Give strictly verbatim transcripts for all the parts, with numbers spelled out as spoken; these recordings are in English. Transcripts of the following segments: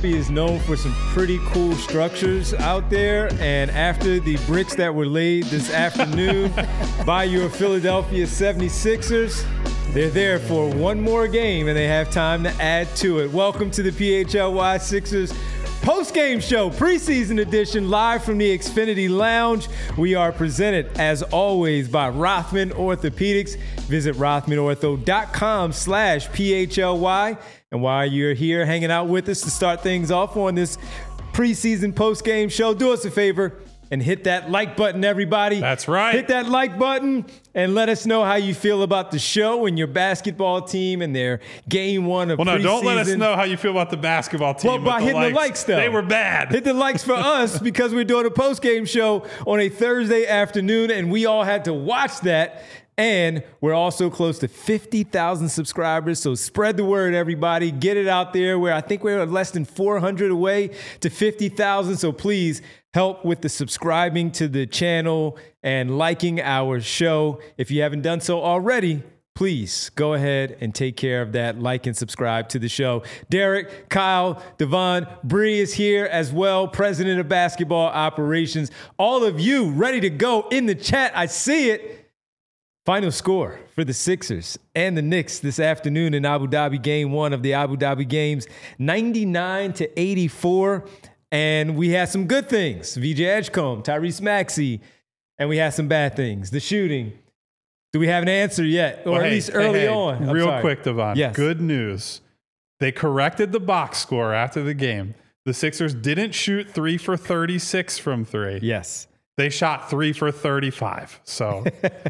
Philadelphia is known for some pretty cool structures out there. And after the bricks that were laid this afternoon by your Philadelphia seventy-sixers, they're there for one more game and they have time to add to it. Welcome to the P H L Y Sixers post-game show, preseason edition, live from the Xfinity Lounge. We are presented, as always, by Rothman Orthopedics. Visit rothmanortho.com slash PHLY. And while you're here hanging out with us to start things off on this preseason post-game show, do us a favor and hit that like button, everybody. That's right. Hit that like button and let us know how you feel about the show and your basketball team and their game one of preseason. Well, no, don't let us know how you feel about the basketball team. Well, by the hitting likes. the likes, though. They were bad. Hit the likes for us because we're doing a post-game show on a Thursday afternoon, and we all had to watch that. And we're also close to fifty thousand subscribers, so spread the word, everybody. Get it out there. Where I think we're less than four hundred away to fifty thousand, so please help with the subscribing to the channel and liking our show. If you haven't done so already, please go ahead and take care of that. Like and subscribe to the show. Derek, Kyle, Devon, Bree is here as well, president of basketball operations. All of you ready to go in the chat. I see it. Final score for the Sixers and the Knicks this afternoon in Abu Dhabi, game one of the Abu Dhabi games, ninety-nine to eighty-four. And we had some good things. V J Edgecombe, Tyrese Maxey, and we had some bad things. The shooting. Do we have an answer yet? Or well, at hey, least early hey, on. I'm real sorry. quick, Devon. Yes. Good news. They corrected the box score after the game. The Sixers didn't shoot three for thirty-six from three. Yes. They shot three for thirty-five. So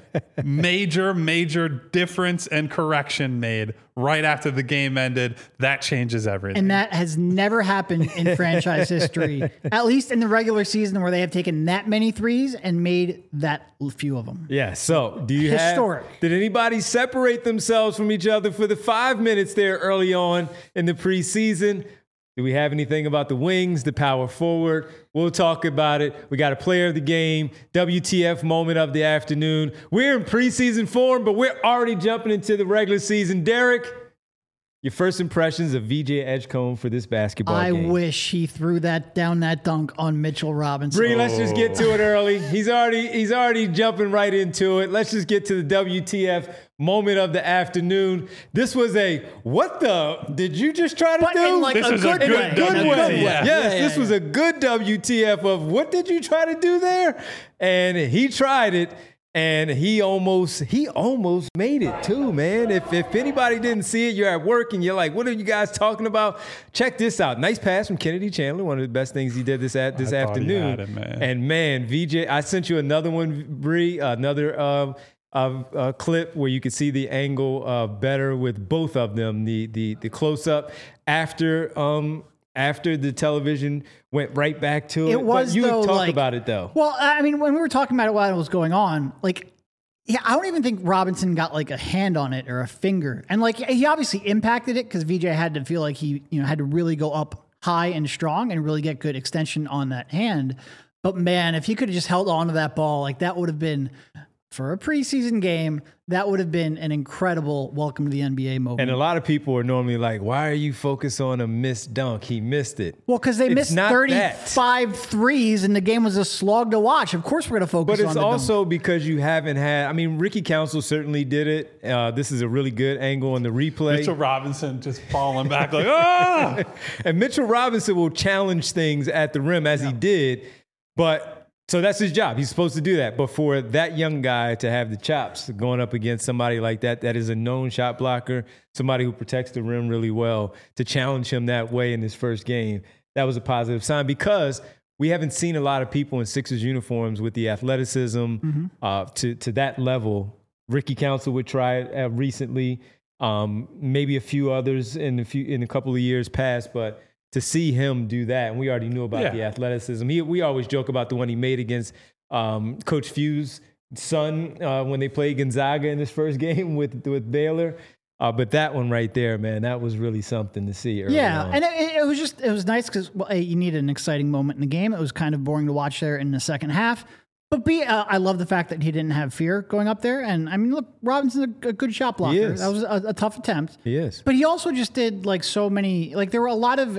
major, major difference and correction made right after the game ended. That changes everything. And that has never happened in franchise history, at least in the regular season where they have taken that many threes and made that few of them. Yeah. So do you Historic. have, did anybody separate themselves from each other for the five minutes there early on in the preseason? Do we have anything about the wings, the power forward? We'll talk about it. We got a player of the game, W T F moment of the afternoon. We're in preseason form, but we're already jumping into the regular season. Derek, your first impressions of V J Edgecombe for this basketball I game. wish he threw that down that dunk on Mitchell Robinson. Bree, let's just get to it early. He's already he's already jumping right into it. Let's just get to the W T F moment of the afternoon. This was a what the did you just try to But do? in like This a was a good, good way. Good W T F. way. Yeah. Yes, Yeah, this yeah, was a good W T F of what did you try to do there? And he tried it. And he almost he almost made it too, man. If if anybody didn't see it, you're at work and you're like, what are you guys talking about? Check this out. Nice pass from Kennedy Chandler, one of the best things he did this at this I thought he afternoon. had it, man. And man, V J, I sent you another one, Bree, another uh, uh, uh, clip where you could see the angle uh, better with both of them. The the the close up after um after the television went right back to it. It was, but you though, talk like- about it though. Well, I mean, when we were talking about it while it was going on, like, yeah, I don't even think Robinson got like a hand on it or a finger. And like, he obviously impacted it because V J had to feel like he, you know, had to really go up high and strong and really get good extension on that hand. But man, if he could have just held on to that ball, like that would have been, for a preseason game, that would have been an incredible welcome to the N B A moment. And a lot of people are normally like, why are you focused on a missed dunk? He missed it. Well, because they It's missed not thirty-five threes and the game was a slog to watch. Of course, we're going to focus But on it's the also dunk. because you haven't had, I mean, Ricky Council certainly did it. Uh, this is a really good angle on the replay. Mitchell Robinson just falling back like, ah! And Mitchell Robinson will challenge things at the rim as he did. But so that's his job. He's supposed to do that. But for that young guy to have the chops going up against somebody like that, that is a known shot blocker, somebody who protects the rim really well, to challenge him that way in his first game, that was a positive sign because we haven't seen a lot of people in Sixers uniforms with the athleticism Mm-hmm. uh, to, to that level. Ricky Council would try it uh, recently, um, maybe a few others in a, few, in a couple of years past, but to see him do that, and we already knew about Yeah. the athleticism. He, we always joke about the one he made against um, Coach Few's son uh, when they played Gonzaga in his first game with with Baylor. Uh, but that one right there, man, that was really something to see early Yeah, on. and it, it was just, it was nice because well, A, you needed an exciting moment in the game. It was kind of boring to watch there in the second half. But B, uh, I love the fact that he didn't have fear going up there. And I mean, look, Robinson's a, a good shot blocker. is. That was a, a tough attempt. He is. But he also just did like so many, like there were a lot of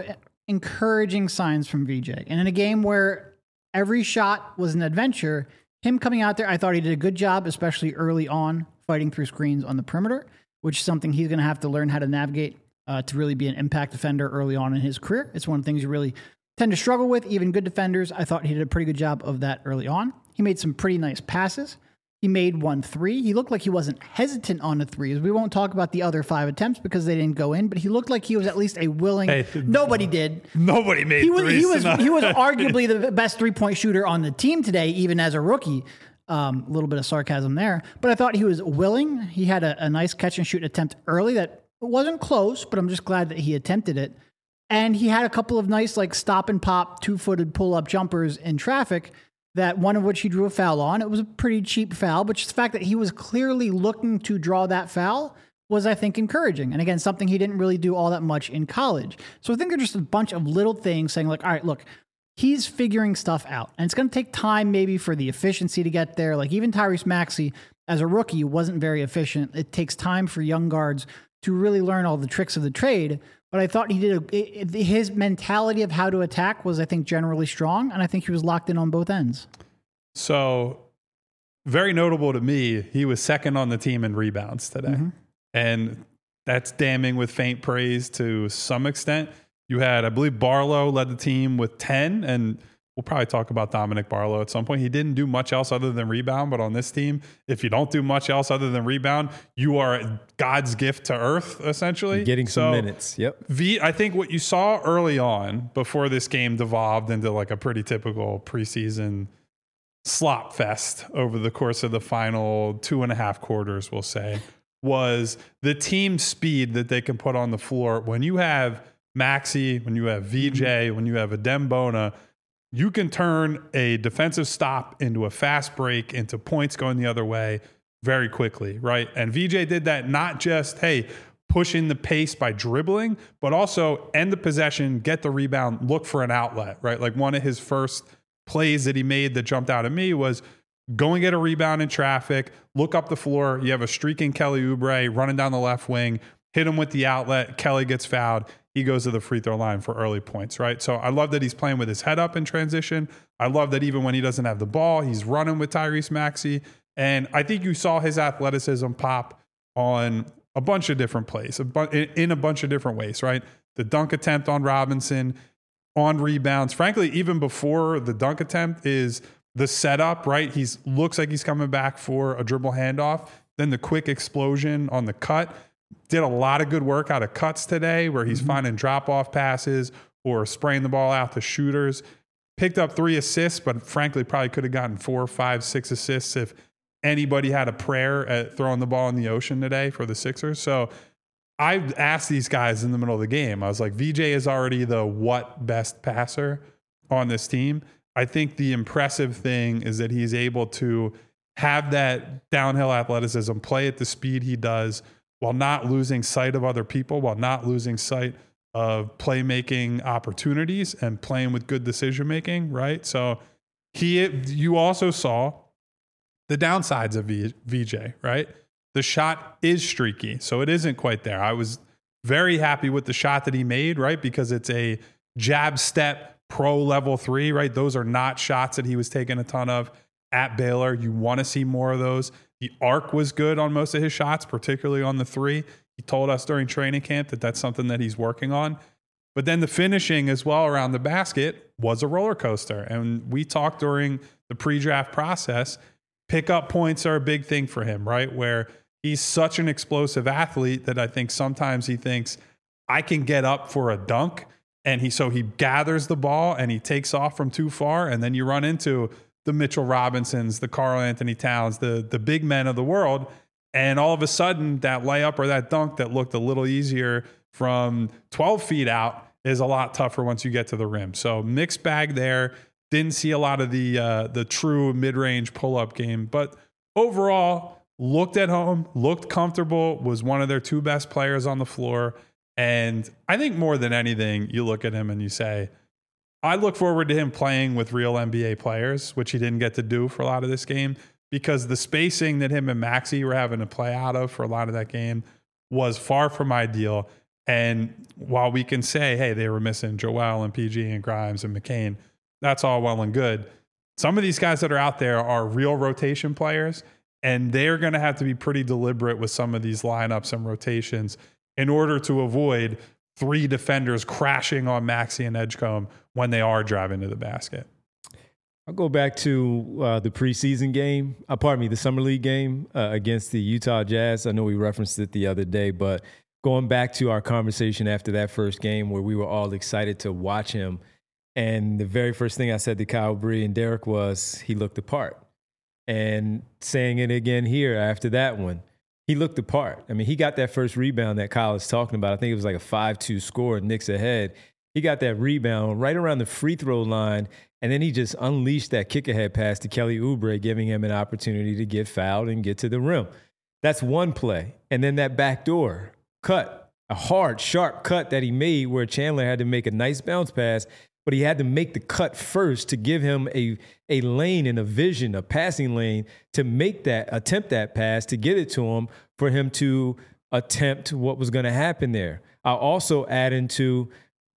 encouraging signs from V J. And in a game where every shot was an adventure, him coming out there, I thought he did a good job, especially early on, fighting through screens on the perimeter, which is something he's going to have to learn how to navigate uh, to really be an impact defender early on in his career. It's one of the things you really tend to struggle with, even good defenders. I thought he did a pretty good job of that early on. He made some pretty nice passes. He made one three. He looked like he wasn't hesitant on the threes. We won't talk about the other five attempts because they didn't go in, but he looked like he was at least a willing. Hey, nobody did. Nobody made he was, threes. He was, he was arguably the best three-point shooter on the team today, even as a rookie. Um, a little bit of sarcasm there. But I thought he was willing. He had a, a nice catch-and-shoot attempt early that wasn't close, but I'm just glad that he attempted it. And he had a couple of nice, like, stop-and-pop, two-footed pull-up jumpers in traffic, that one of which he drew a foul on. It was a pretty cheap foul, but just the fact that he was clearly looking to draw that foul was, I think, encouraging. And again, something he didn't really do all that much in college. So I think they're just a bunch of little things saying, like, all right, look, he's figuring stuff out. And it's going to take time maybe for the efficiency to get there. Like, even Tyrese Maxey, as a rookie, wasn't very efficient. It takes time for young guards to really learn all the tricks of the trade. But I thought he did a, it, his mentality of how to attack was, I think, generally strong, and I think he was locked in on both ends. So, very notable to me, he was second on the team in rebounds today. Mm-hmm. And that's damning with faint praise to some extent. You had, I believe, Barlow led the team with ten, and we'll probably talk about Dominic Barlow at some point. He didn't do much else other than rebound, but on this team, if you don't do much else other than rebound, you are God's gift to earth, essentially. Getting some so, minutes, yep. V, I think what you saw early on before this game devolved into like a pretty typical preseason slop fest over the course of the final two and a half quarters, we'll say, was the team speed that they can put on the floor. When you have Maxey, when you have V J, mm-hmm. when you have Adem Bona, you can turn a defensive stop into a fast break, into points going the other way very quickly, right? And V J did that not just, hey, pushing the pace by dribbling, but also end the possession, get the rebound, look for an outlet, right? Like one of his first plays that he made that jumped out at me was go and get a rebound in traffic, look up the floor. You have a streaking Kelly Oubre running down the left wing, hit him with the outlet. Kelly gets fouled. He goes to the free throw line for early points, right? So I love that he's playing with his head up in transition. I love that even when he doesn't have the ball, he's running with Tyrese Maxey. And I think you saw his athleticism pop on a bunch of different plays, a bu- in a bunch of different ways, right? The dunk attempt on Robinson, on rebounds. Frankly, even before the dunk attempt is the setup, right? He looks like he's coming back for a dribble handoff. Then the quick explosion on the cut. Did a lot of good work out of cuts today where he's mm-hmm. finding drop-off passes or spraying the ball out to shooters. Picked up three assists, but frankly probably could have gotten four, five, six assists if anybody had a prayer at throwing the ball in the ocean today for the Sixers. So I asked these guys in the middle of the game, I was like, V J is already the what best passer on this team. I think the impressive thing is that he's able to have that downhill athleticism, play at the speed he does, while not losing sight of other people, while not losing sight of playmaking opportunities and playing with good decision-making, right? So he, you also saw the downsides of v, VJ, right? The shot is streaky, so it isn't quite there. I was very happy with the shot that he made, right? Because it's a jab step pro level three, right? Those are not shots that he was taking a ton of at Baylor. You want to see more of those. The arc was good on most of his shots, particularly on the three. He told us during training camp that that's something that he's working on. But then the finishing as well around the basket was a roller coaster. And we talked during the pre-draft process, pickup points are a big thing for him, right? Where he's such an explosive athlete that I think sometimes he thinks, I can get up for a dunk. And he so he gathers the ball and he takes off from too far. And then you run into the Mitchell Robinsons, the Karl Anthony Towns, the, the big men of the world. And all of a sudden, that layup or that dunk that looked a little easier from twelve feet out is a lot tougher once you get to the rim. So mixed bag there. Didn't see a lot of the uh, the true mid-range pull-up game. But overall, looked at home, looked comfortable, was one of their two best players on the floor. And I think more than anything, you look at him and you say, I look forward to him playing with real N B A players, which he didn't get to do for a lot of this game, because the spacing that him and Maxey were having to play out of for a lot of that game was far from ideal. And while we can say, hey, they were missing Joel and P G and Grimes and McCain, that's all well and good. Some of these guys that are out there are real rotation players, and they're going to have to be pretty deliberate with some of these lineups and rotations in order to avoid three defenders crashing on Maxey and Edgecombe when they are driving to the basket. I'll go back to uh, the preseason game, uh, pardon me, the Summer League game uh, against the Utah Jazz. I know we referenced it the other day, but going back to our conversation after that first game where we were all excited to watch him, and the very first thing I said to Kyle Bree and Derek was he looked the part. And saying it again here after that one, he looked the part. I mean, he got that first rebound that Kyle is talking about. I think it was like a five two score, Knicks ahead. He got that rebound right around the free throw line, and then he just unleashed that kick-ahead pass to Kelly Oubre, giving him an opportunity to get fouled and get to the rim. That's one play. And then that backdoor cut, a hard, sharp cut that he made where Chandler had to make a nice bounce pass, but he had to make the cut first to give him a, a lane and a vision, a passing lane, to make that, attempt that pass, to get it to him, for him to attempt what was going to happen there. I'll also add into,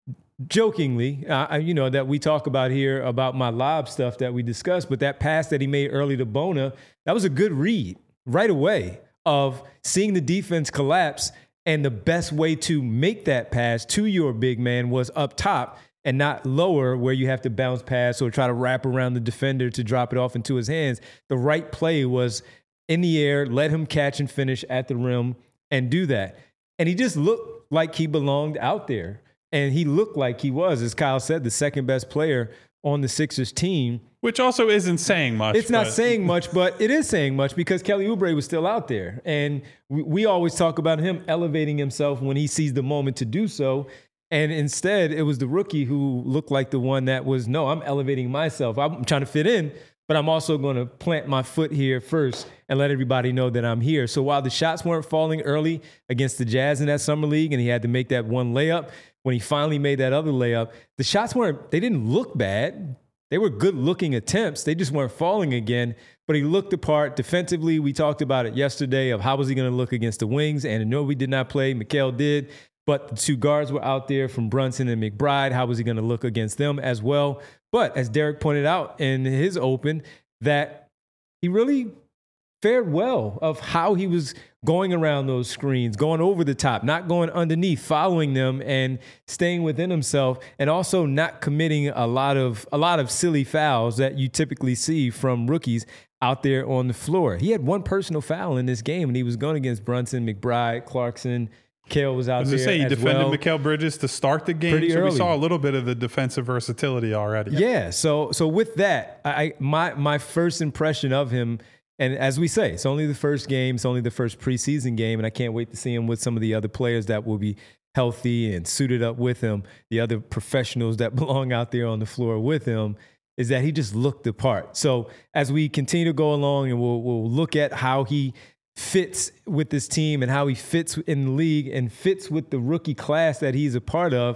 jokingly, uh, you know, that we talk about here about my lob stuff that we discussed, but that pass that he made early to Bona, that was a good read right away of seeing the defense collapse, and the best way to make that pass to your big man was up top and not lower where you have to bounce pass or try to wrap around the defender to drop it off into his hands. The right play was in the air, let him catch and finish at the rim and do that. And he just looked like he belonged out there. And he looked like he was, as Kyle said, the second best player on the Sixers team. Which also isn't saying much. It's not saying much, but it is saying much because Kelly Oubre was still out there. And we, we always talk about him elevating himself when he sees the moment to do so. And instead, it was the rookie who looked like the one that was, no, I'm elevating myself. I'm trying to fit in, but I'm also going to plant my foot here first and let everybody know that I'm here. So while the shots weren't falling early against the Jazz in that summer league and he had to make that one layup, when he finally made that other layup, the shots weren't, they didn't look bad. They were good-looking attempts. They just weren't falling again, but he looked the part. Defensively, we talked about it yesterday of how was he going to look against the wings, and Anunoby did not play. Mikal did, but the two guards were out there from Brunson and McBride. How was he going to look against them as well? But as Derek pointed out in his open, that he really fared well of how he was going around those screens, going over the top, not going underneath, following them and staying within himself, and also not committing a lot of a lot of silly fouls that you typically see from rookies out there on the floor. He had one personal foul in this game, and he was going against Brunson, McBride, Clarkson. Mikal was out I was there say, he as defended well. Mikal Bridges to start the game, Pretty so early. we saw a little bit of the defensive versatility already. Yeah, so so with that, I my my first impression of him, and as we say, it's only the first game, it's only the first preseason game, and I can't wait to see him with some of the other players that will be healthy and suited up with him, the other professionals that belong out there on the floor with him, is that he just looked the part. So as we continue to go along and we'll, we'll look at how he fits with this team and how he fits in the league and fits with the rookie class that he's a part of,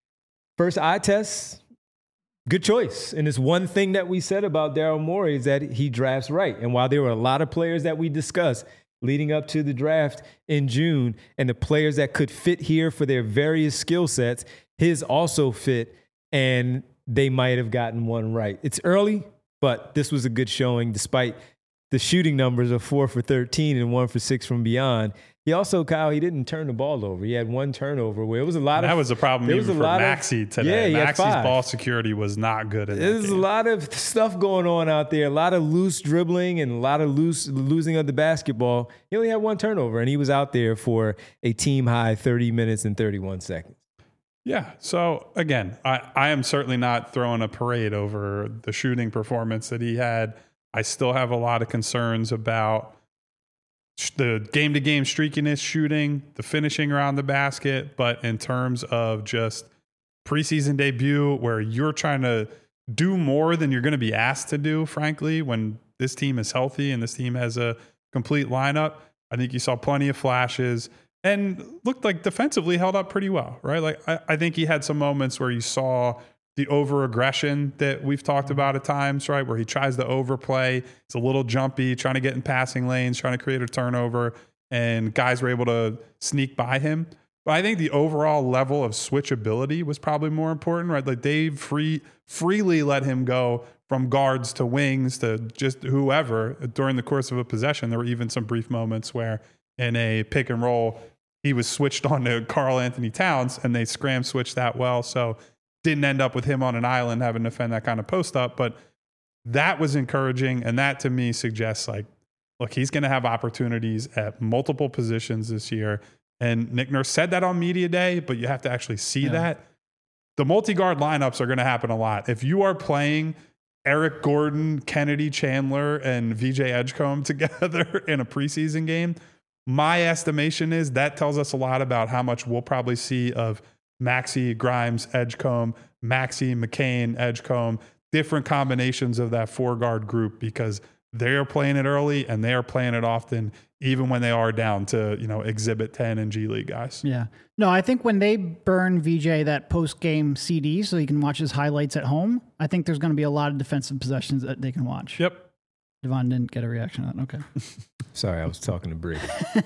first eye test, good choice. And it's one thing that we said about Daryl Morey is that he drafts right. And while there were a lot of players that we discussed leading up to the draft in June and the players that could fit here for their various skill sets, his also fit, and they might have gotten one right. It's early, but this was a good showing despite the shooting numbers of four for thirteen and one for six from beyond. He also, Kyle, he didn't turn the ball over. He had one turnover where it was a lot And of... that was a problem there even was a for lot of- Maxey today. Yeah, he had Maxey's five. ball security was not good in that There's a game. lot of stuff going on out there, a lot of loose dribbling and a lot of loose losing of the basketball. He only had one turnover, and he was out there for a team-high thirty minutes and thirty-one seconds. Yeah. So again, I, I am certainly not throwing a parade over the shooting performance that he had. I still have a lot of concerns about sh- the game-to-game streakiness shooting, the finishing around the basket. But in terms of just preseason debut where you're trying to do more than you're going to be asked to do, frankly, when this team is healthy and this team has a complete lineup, I think you saw plenty of flashes. And looked like defensively held up pretty well, right? Like I, I think he had some moments where you saw the over-aggression that we've talked about at times, right? Where he tries to overplay. It's a little jumpy, trying to get in passing lanes, trying to create a turnover, and guys were able to sneak by him. But I think the overall level of switchability was probably more important, right? Like they free freely let him go from guards to wings to just whoever during the course of a possession. There were even some brief moments where in a pick and roll, he was switched on to Karl Anthony Towns and they scram switched that well. So didn't end up with him on an island having to defend that kind of post up. But that was encouraging. And that to me suggests like, look, he's going to have opportunities at multiple positions this year. And Nick Nurse said that on media day, but you have to actually see yeah. that. The multi-guard lineups are going to happen a lot. If you are playing Eric Gordon, Kennedy Chandler, and V J Edgecombe together in a preseason game, my estimation is that tells us a lot about how much we'll probably see of Maxey, Grimes, Edgecombe, Maxey, McCain, Edgecombe, different combinations of that four-guard group because they are playing it early and they are playing it often, even when they are down to, you know, Exhibit ten and G League guys. Yeah. No, I think when they burn V J that post-game C D so you can watch his highlights at home, I think there's going to be a lot of defensive possessions that they can watch. Yep. Devon didn't get a reaction on that. Okay. Sorry, I was talking to Bree.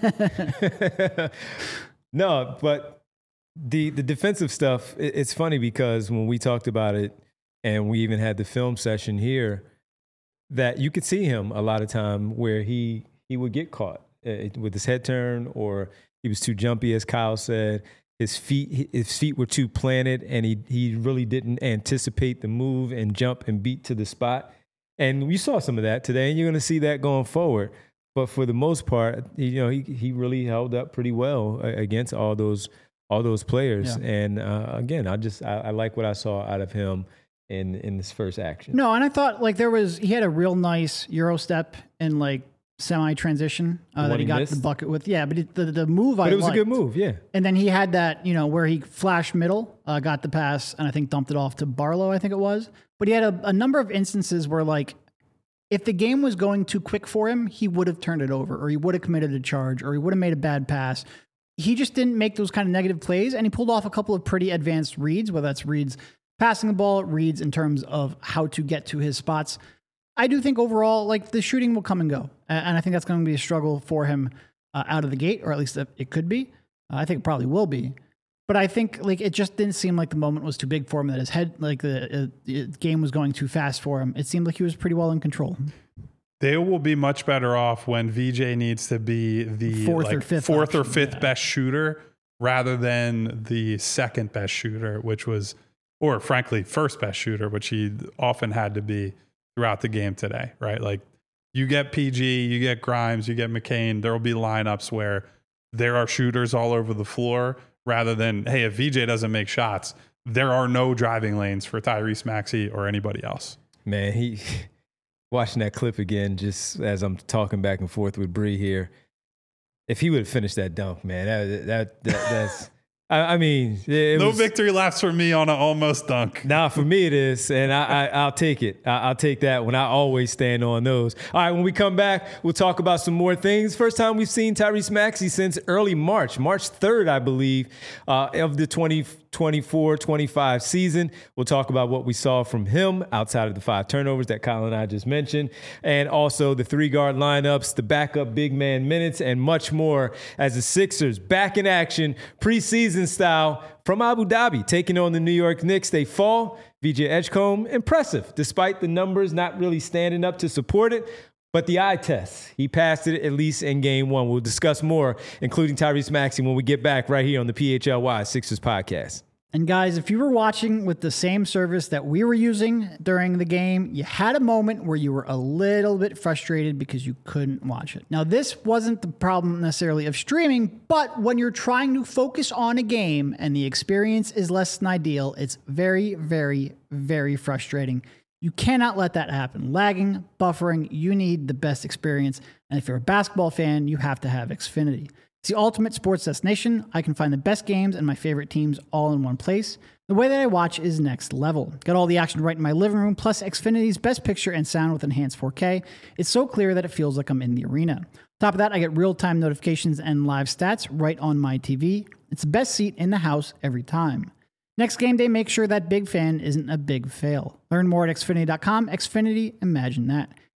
No, but the the defensive stuff, it, it's funny because when we talked about it and we even had the film session here, that you could see him a lot of time where he he would get caught uh, with his head turn, or he was too jumpy, as Kyle said. His feet his feet were too planted, and he he really didn't anticipate the move and jump and beat to the spot. And we saw some of that today, and you're going to see that going forward. But for the most part, you know, he he really held up pretty well against all those all those players. Yeah. And uh, again, I just I, I like what I saw out of him in in this first action. No, and I thought like there was he had a real nice Euro step in like semi transition uh, that he, he got missed? the bucket with. Yeah, but it, the the move but I it was liked. a good move. Yeah, and then he had that you know where he flashed middle, uh, got the pass, and I think dumped it off to Barlow. I think it was. But he had a, a number of instances where like if the game was going too quick for him, he would have turned it over, or he would have committed a charge, or he would have made a bad pass. He just didn't make those kind of negative plays, and he pulled off a couple of pretty advanced reads, whether that's reads passing the ball, reads in terms of how to get to his spots. I do think overall, like the shooting will come and go, and I think that's going to be a struggle for him uh, out of the gate, or at least it could be. Uh, I think it probably will be. But I think like it just didn't seem like the moment was too big for him, that his head, like the, uh, the game was going too fast for him. It seemed like he was pretty well in control. They will be much better off when V J needs to be the fourth like, or fifth, fourth option, or fifth yeah. best shooter rather than the second best shooter, which was, or frankly, first best shooter, which he often had to be throughout the game today, right? Like you get P G, you get Grimes, you get McCain. There will be lineups where there are shooters all over the floor rather than, hey, if V J doesn't make shots, there are no driving lanes for Tyrese Maxey or anybody else. Man, he watching that clip again, just as I'm talking back and forth with Bree here. If he would have finished that dunk, man, that that, that that's. I, I mean, it no was, victory laps for me on an almost dunk. Nah, for me it is, and I, I, I'll take it. I, I'll take that one. I always stand on those. All right, when we come back, we'll talk about some more things. First time we've seen Tyrese Maxey since early March, March third, I believe, uh, of the twenty twenty-four twenty-five season. We'll talk about what we saw from him outside of the five turnovers that Kyle and I just mentioned, and also the three-guard lineups, the backup big man minutes, and much more as the Sixers back in action, preseason style from Abu Dhabi, taking on the New York Knicks. They fall. V J Edgecombe, impressive, despite the numbers not really standing up to support it. But the eye test, he passed it at least in game one. We'll discuss more, including Tyrese Maxey, when we get back right here on the P H L Y Sixers podcast. And guys, if you were watching with the same service that we were using during the game, you had a moment where you were a little bit frustrated because you couldn't watch it. Now, this wasn't the problem necessarily of streaming, but when you're trying to focus on a game and the experience is less than ideal, it's very, very, very frustrating. You cannot let that happen. Lagging, buffering, you need the best experience. And if you're a basketball fan, you have to have Xfinity. It's the ultimate sports destination. I can find the best games and my favorite teams all in one place. The way that I watch is next level. Got all the action right in my living room, plus Xfinity's best picture and sound with enhanced four K. It's so clear that it feels like I'm in the arena. On top of that, I get real-time notifications and live stats right on my T V. It's the best seat in the house every time. Next game day, make sure that big fan isn't a big fail. Learn more at Xfinity dot com. Xfinity, imagine that.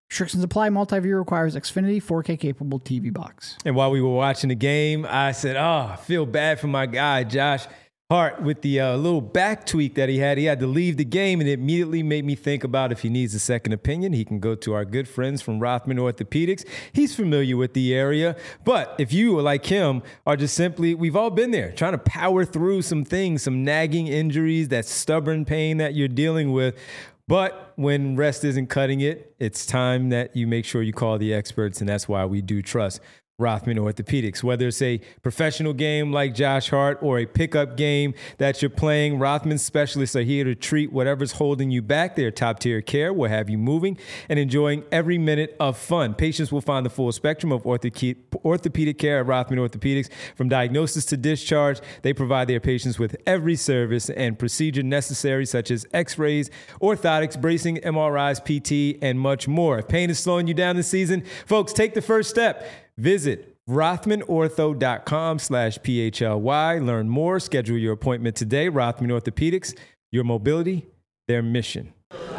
Restrictions apply. Multi-view requires Xfinity four K capable T V box. And while we were watching the game, I said, oh, I feel bad for my guy, Josh Hart, with the uh, little back tweak that he had. He had to leave the game, and it immediately made me think about if he needs a second opinion, he can go to our good friends from Rothman Orthopedics. He's familiar with the area. But if you, like him, are just simply, we've all been there, trying to power through some things, some nagging injuries, that stubborn pain that you're dealing with. But when rest isn't cutting it, it's time that you make sure you call the experts, and that's why we do trust Rothman Orthopedics. Whether it's a professional game like Josh Hart or a pickup game that you're playing, Rothman specialists are here to treat whatever's holding you back. Their top-tier care will have you moving and enjoying every minute of fun. Patients will find the full spectrum of orthope- orthopedic care at Rothman Orthopedics. From diagnosis to discharge, they provide their patients with every service and procedure necessary, such as x-rays, orthotics, bracing, M R Is, P T, and much more. If pain is slowing you down this season, folks, take the first step. Visit rothmanortho.com slash PHLY. Learn more. Schedule your appointment today. Rothman Orthopedics, your mobility, their mission.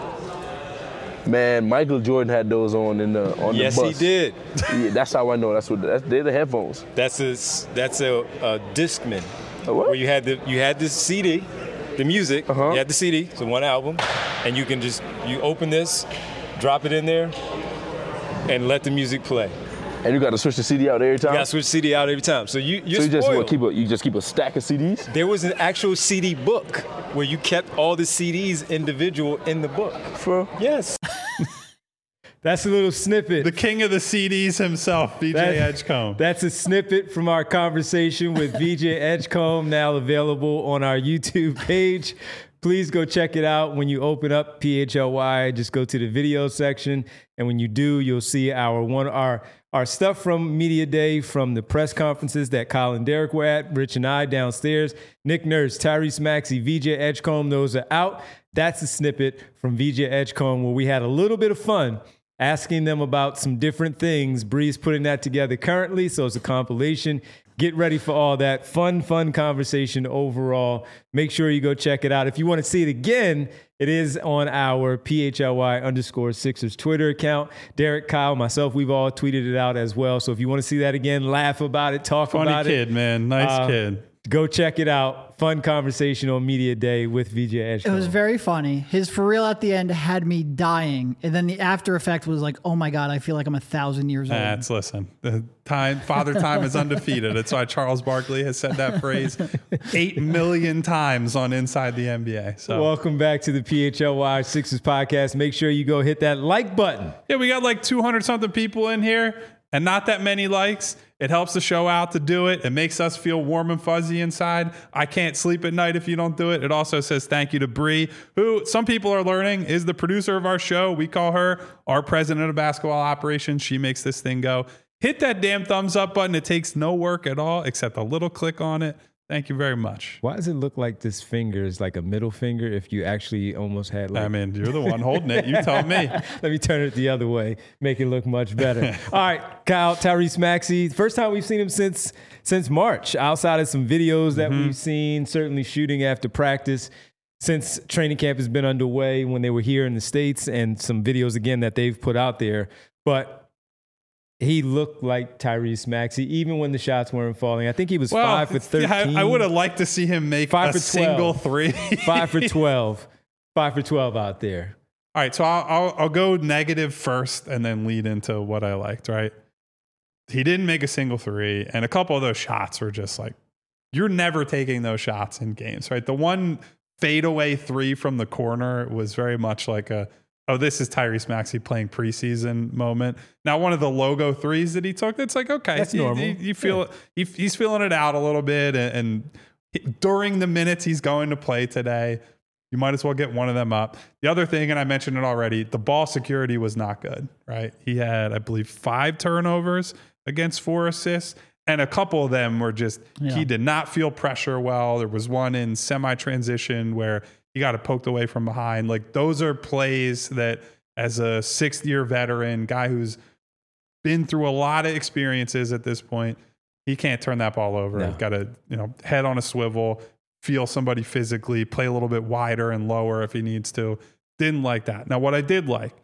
Man, Michael Jordan had those on in the on yes, the bus. Yes, he did. Yeah, that's how I know. That's what that's, they're the headphones. That's a that's a, a Discman. A what? Where you had the you had the C D, the music. Uh-huh. You had the C D, so one album, and you can just you open this, drop it in there, and let the music play. And you got to switch the C D out every time. You got to switch C D out every time. So you you're so you just spoiled. what, keep a you just keep a stack of C Ds. There was an actual C D book where you kept all the C Ds individual in the book. For Yes. That's a little snippet. The king of the C Ds himself, V J That- Edgecombe. That's a snippet from our conversation with V J Edgecombe, now available on our YouTube page. Please go check it out. When you open up P H L Y, just go to the video section. And when you do, you'll see our one our our stuff from Media Day, from the press conferences that Kyle and Derek were at, Rich and I downstairs, Nick Nurse, Tyrese Maxey, V J Edgecombe, those are out. That's a snippet from V J Edgecombe where we had a little bit of fun asking them about some different things. Bree's putting that together currently, so it's a compilation. Get ready for all that. Fun, fun conversation overall. Make sure you go check it out. If you want to see it again, it is on our P H L Y underscore Sixers Twitter account. Derek, Kyle, myself, we've all tweeted it out as well. So if you want to see that again, laugh about it, talk Funny about kid, it. man. Nice Uh, kid. Go check it out. Fun conversation on Media Day with V J It Edgecombe. was very funny. His for real at the end had me dying. And then the after effect was like, oh my God, I feel like I'm a thousand years old. That's listen. The time, father time is undefeated. That's why Charles Barkley has said that phrase eight million times on Inside the N B A. So Welcome back to the P H L Y Sixers podcast. Make sure you go hit that like button. yeah, we got like two hundred something people in here and not that many likes. It helps the show out to do it. It makes us feel warm and fuzzy inside. I can't sleep at night if you don't do it. It also says thank you to Bree, who some people are learning is the producer of our show. We call her our president of basketball operations. She makes this thing go. Hit that damn thumbs up button. It takes no work at all except a little click on it. Thank you very much. Why does it look like this finger is like a middle finger if you actually almost had like... I mean, you're the one holding it. You tell me. Let me turn it the other way, make it look much better. All right, Kyle, Tyrese Maxey. First time we've seen him since since March, outside of some videos that Mm-hmm. we've seen, certainly shooting after practice, since training camp has been underway when they were here in the States, and some videos, again, that they've put out there. But he looked like Tyrese Maxey, even when the shots weren't falling. I think he was Well, five for yeah, thirteen. I, I would have liked to see him make Five a for single twelve. three. five for twelve. Five for twelve out there. All right, so I'll, I'll I'll go negative first and then lead into what I liked, right? He didn't make a single three, and a couple of those shots were just like, you're never taking those shots in games, right? The one fadeaway three from the corner was very much like a, oh, this is Tyrese Maxey playing preseason moment. Now, one of the logo threes that he took, it's like, okay, That's you, normal. you, you feel it. He, he's feeling it out a little bit, and, and he- during the minutes he's going to play today, you might as well get one of them up. The other thing, and I mentioned it already, the ball security was not good, right? He had, I believe, five turnovers against four assists, and a couple of them were just, Yeah. he did not feel pressure well. There was one in semi-transition where he got it poked away from behind. Like, those are plays that, as a sixth-year veteran, guy who's been through a lot of experiences at this point, he can't turn that ball over. No. He's got to, you know, head on a swivel, feel somebody physically, play a little bit wider and lower if he needs to. Didn't like that. Now, what I did like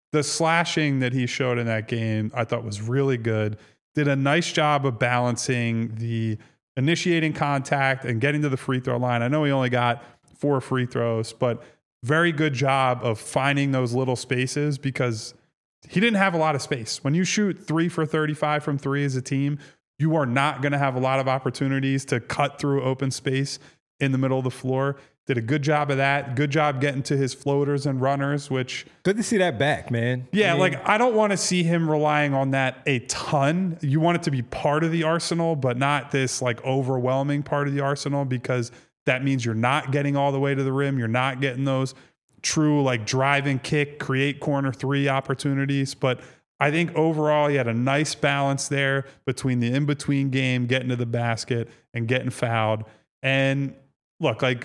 the slashing that he showed in that game, I thought was really good. Did a nice job of balancing the initiating contact and getting to the free throw line. I know he only got four free throws, but very good job of finding those little spaces because he didn't have a lot of space. When you shoot three for thirty-five from three as a team, you are not going to have a lot of opportunities to cut through open space in the middle of the floor. Did a good job of that. Good job getting to his floaters and runners, which... Good to see that back, man. Yeah, I mean, like I don't want to see him relying on that a ton. You want it to be part of the arsenal, but not this like overwhelming part of the arsenal because that means you're not getting all the way to the rim. You're not getting those true like drive and kick, create corner three opportunities. But I think overall he had a nice balance there between the in-between game, getting to the basket and getting fouled. And look, like...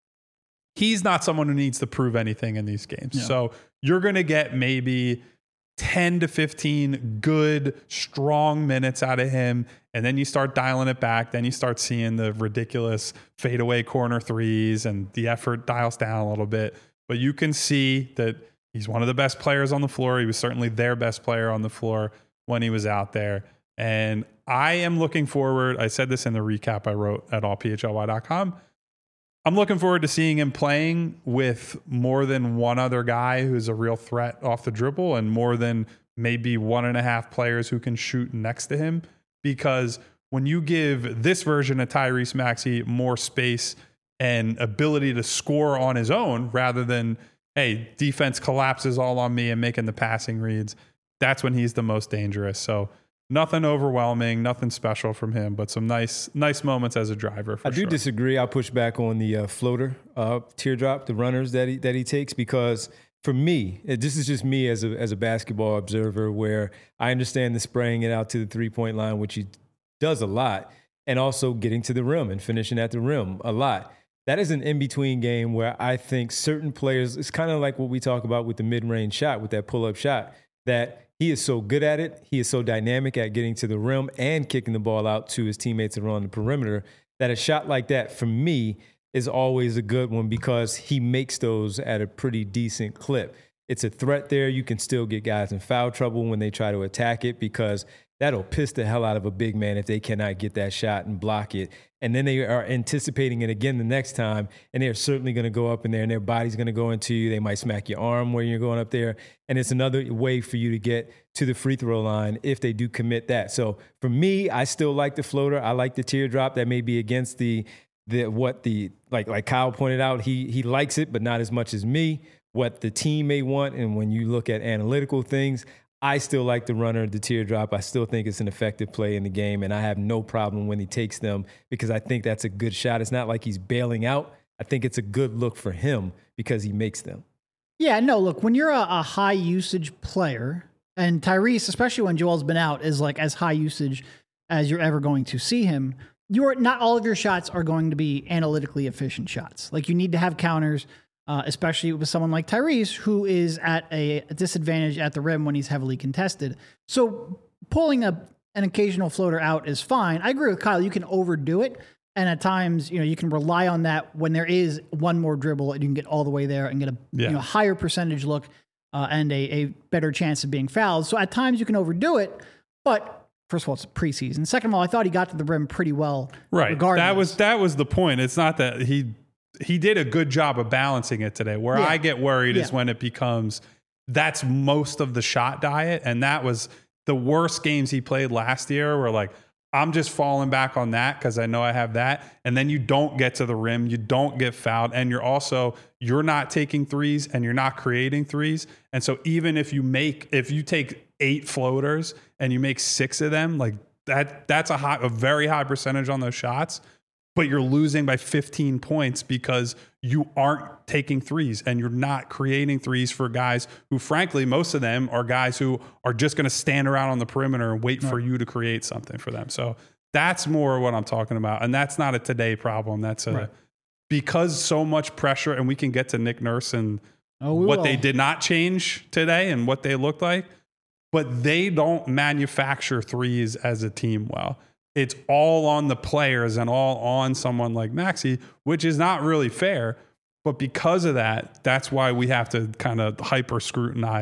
he's not someone who needs to prove anything in these games. Yeah. So you're going to get maybe ten to fifteen good, strong minutes out of him. And then you start dialing it back. Then you start seeing the ridiculous fadeaway corner threes and the effort dials down a little bit. But you can see that he's one of the best players on the floor. He was certainly their best player on the floor when he was out there. And I am looking forward. I said this in the recap I wrote at all P H L Y dot com. I'm looking forward to seeing him playing with more than one other guy who's a real threat off the dribble and more than maybe one and a half players who can shoot next to him. Because when you give this version of Tyrese Maxey more space and ability to score on his own rather than, hey, defense collapses all on me and making the passing reads, that's when he's the most dangerous. So nothing overwhelming, nothing special from him, but some nice nice moments as a driver for I do sure. disagree. I'll push back on the uh, floater uh, teardrop, the runners that he that he takes, because for me, it, this is just me as a as a basketball observer, where I understand the spraying it out to the three-point line, which he does a lot, and also getting to the rim and finishing at the rim a lot. That is an in-between game where I think certain players, it's kind of like what we talk about with the mid-range shot, with that pull-up shot, that he is so good at it. He is so dynamic at getting to the rim and kicking the ball out to his teammates that are on the perimeter that a shot like that, for me, is always a good one because he makes those at a pretty decent clip. It's a threat there. You can still get guys in foul trouble when they try to attack it because that'll piss the hell out of a big man if they cannot get that shot and block it. And then they are anticipating it again the next time, and they're certainly going to go up in there, and their body's going to go into you. They might smack your arm where you're going up there, and it's another way for you to get to the free throw line if they do commit that. So for me, I still like the floater. I like the teardrop. That may be against the the what the like like Kyle pointed out. He he likes it, but not as much as me. What the team may want, and when you look at analytical things, I still like the runner, the teardrop. I still think it's an effective play in the game, and I have no problem when he takes them because I think that's a good shot. It's not like he's bailing out. I think it's a good look for him because he makes them. Yeah, no, look, when you're a, a high usage player, and Tyrese, especially when Joel's been out, is like as high usage as you're ever going to see him, you're not all of your shots are going to be analytically efficient shots. Like you need to have counters. Uh, especially with someone like Tyrese, who is at a, a disadvantage at the rim when he's heavily contested. So pulling a, an occasional floater out is fine. I agree with Kyle. You can overdo it. And at times, you know, you can rely on that when there is one more dribble and you can get all the way there and get a Yeah. you know, higher percentage look uh, and a, a better chance of being fouled. So at times you can overdo it. But first of all, it's preseason. Second of all, I thought he got to the rim pretty well. Right. Regardless. That was that was the point. It's not that he he did a good job of balancing it today. Where Yeah. I get worried is Yeah. when it becomes that's most of the shot diet. And that was the worst games he played last year where like, I'm just falling back on that because I know I have that. And then you don't get to the rim, you don't get fouled, and you're also you're not taking threes and you're not creating threes. And so even if you make if you take eight floaters and you make six of them, like that that's a high, a very high percentage on those shots. But you're losing by fifteen points because you aren't taking threes and you're not creating threes for guys who, frankly, most of them are guys who are just going to stand around on the perimeter and wait right. for you to create something for them. So that's more what I'm talking about. And that's not a today problem. That's a, right. because so much pressure, and we can get to Nick Nurse and oh, what will. they did not change today and what they looked like, but they don't manufacture threes as a team well. It's all on the players and all on someone like Maxey, which is not really fair. But because of that, that's why we have to kind of hyper scrutinize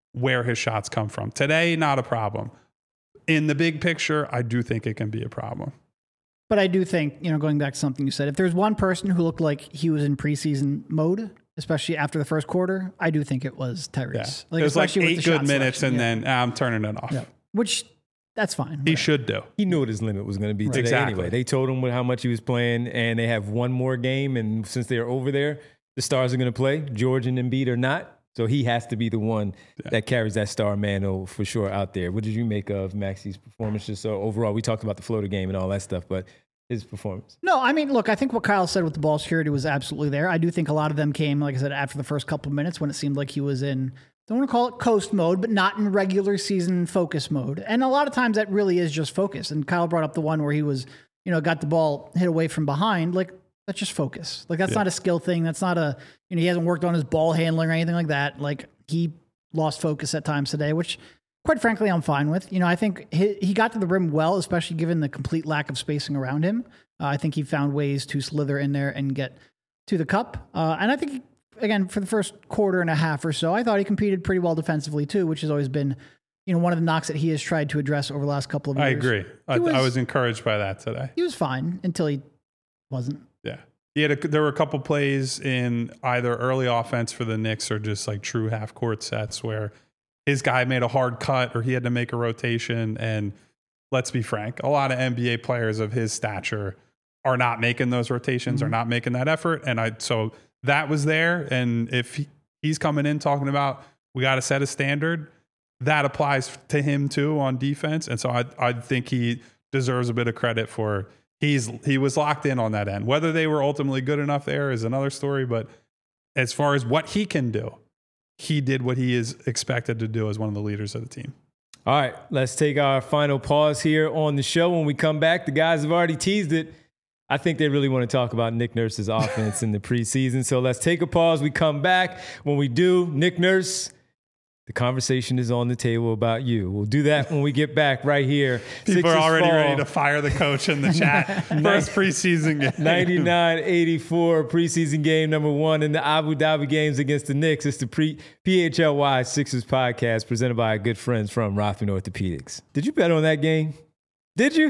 where his shots come from. Today, not a problem. In the big picture, I do think it can be a problem. But I do think, you know, going back to something you said, if there's one person who looked like he was in preseason mode, especially after the first quarter, I do think it was Tyrese. Yeah. Like, it was like especially with eight the good shot minutes, selection. and Yeah. then ah, I'm turning it off. Yeah. Which, that's fine. He whatever. should do. He knew what his limit was going to be today Exactly. anyway. They told him how much he was playing, and they have one more game. And since they're over there, the stars are going to play. George and Embiid are not. So he has to be the one Yeah. that carries that star mantle for sure out there. What did you make of Maxi's performance? Just so overall, we talked about the floater game and all that stuff, but his performance. No, I mean, look, I think what Kyle said with the ball security was absolutely there. I do think a lot of them came, like I said, after the first couple of minutes when it seemed like he was in, don't want to call it coast mode, but not in regular season focus mode. And a lot of times that really is just focus. And Kyle brought up the one where he was, you know, got the ball hit away from behind. Like, that's just focus. Like, that's Yeah. not a skill thing. That's not a, you know, he hasn't worked on his ball handling or anything like that. Like, he lost focus at times today, which quite frankly, I'm fine with. You know, I think he, he got to the rim well, especially given the complete lack of spacing around him. Uh, I think he found ways to slither in there and get to the cup. Uh, and I think, he, again, for the first quarter and a half or so, I thought he competed pretty well defensively too, which has always been, you know, one of the knocks that he has tried to address over the last couple of years. I agree. I was- I was encouraged by that today. He was fine until he wasn't. Yeah. He had a, there were a couple plays in either early offense for the Knicks or just like true half court sets where his guy made a hard cut or he had to make a rotation. And let's be frank, a lot of N B A players of his stature are not making those rotations, Mm-hmm. are not making that effort. And I, so that was there. And if he, he's coming in talking about, we got to set a standard, that applies to him too on defense. And so I, I think he deserves a bit of credit for he's, he was locked in on that end. Whether they were ultimately good enough there is another story. But as far as what he can do, he did what he is expected to do as one of the leaders of the team. All right, let's take our final pause here on the show. When we come back, the guys have already teased it. I think they really want to talk about Nick Nurse's offense in the preseason. So let's take a pause. We come back. When we do, Nick Nurse, the conversation is on the table about you. We'll do that when we get back right here. People Sixers are already fall ready to fire the coach in the chat. First preseason game. ninety-nine eighty-four preseason game number one in the Abu Dhabi games against the Knicks. It's the pre- P H L Y Sixers podcast presented by our good friends from Rothman Orthopedics. Did you bet on that game? Did you?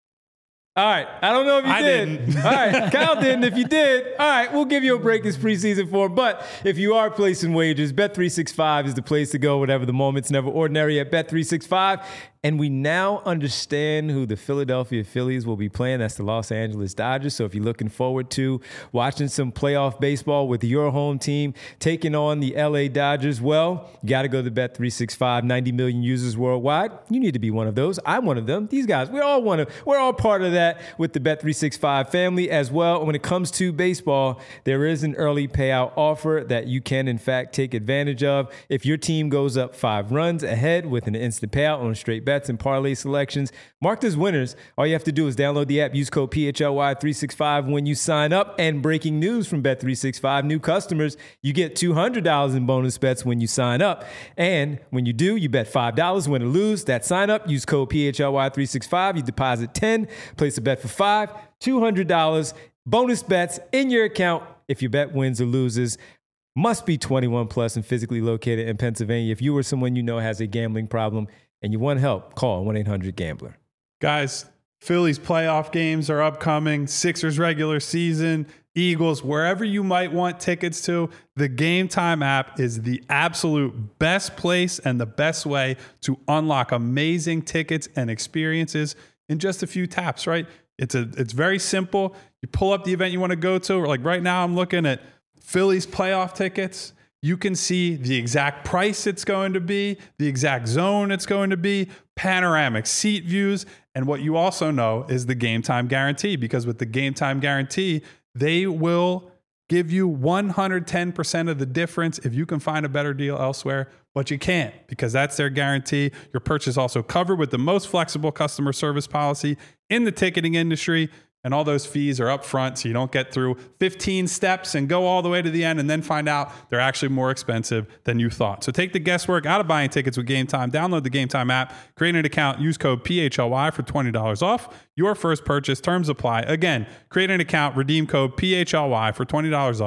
All right. I don't know if you I did. didn't. All right. Kyle didn't. If you did, all right, we'll give you a break this preseason form. But if you are placing wagers, Bet three sixty-five is the place to go, whatever the moment's never ordinary at Bet three sixty-five. And we now understand who the Philadelphia Phillies will be playing. That's the Los Angeles Dodgers. So if you're looking forward to watching some playoff baseball with your home team taking on the L A Dodgers, well, you got to go to Bet three sixty-five. ninety million users worldwide. You need to be one of those. I'm one of them. These guys, we're all one of, we're all part of that with the Bet three sixty-five family as well. When it comes to baseball, there is an early payout offer that you can, in fact, take advantage of. If your team goes up five runs ahead with an instant payout on straight bets and parlay selections marked as winners, all you have to do is download the app, use code P H L Y three sixty-five when you sign up. And breaking news from Bet three sixty-five, new customers, you get two hundred dollars in bonus bets when you sign up. And when you do, you bet five dollars, win or lose. That sign up, use code P H L Y three sixty-five, you deposit ten, place a bet for five, two hundred dollars, bonus bets in your account if your bet wins or loses. Must be twenty-one plus and physically located in Pennsylvania. If you or someone you know has a gambling problem and you want help, call one eight hundred gambler. Guys, Phillies playoff games are upcoming. Sixers regular season, Eagles, wherever you might want tickets to, the Game Time app is the absolute best place and the best way to unlock amazing tickets and experiences in just a few taps, right? It's a it's very simple. You pull up the event you want to go to. Like right now, I'm looking at Phillies playoff tickets. You can see the exact price it's going to be, the exact zone it's going to be, panoramic seat views. And what you also know is the Game Time guarantee, because with the Game Time guarantee, they will give you one hundred ten percent of the difference if you can find a better deal elsewhere, but you can't, because that's their guarantee. Your purchase is also covered with the most flexible customer service policy in the ticketing industry. And all those fees are up front, so you don't get through fifteen steps and go all the way to the end and then find out they're actually more expensive than you thought. So take the guesswork out of buying tickets with Game Time. Download the Game Time app, create an account, use code P H L Y for twenty dollars off your first purchase. Terms apply. Again, create an account, redeem code P H L Y for twenty dollars off.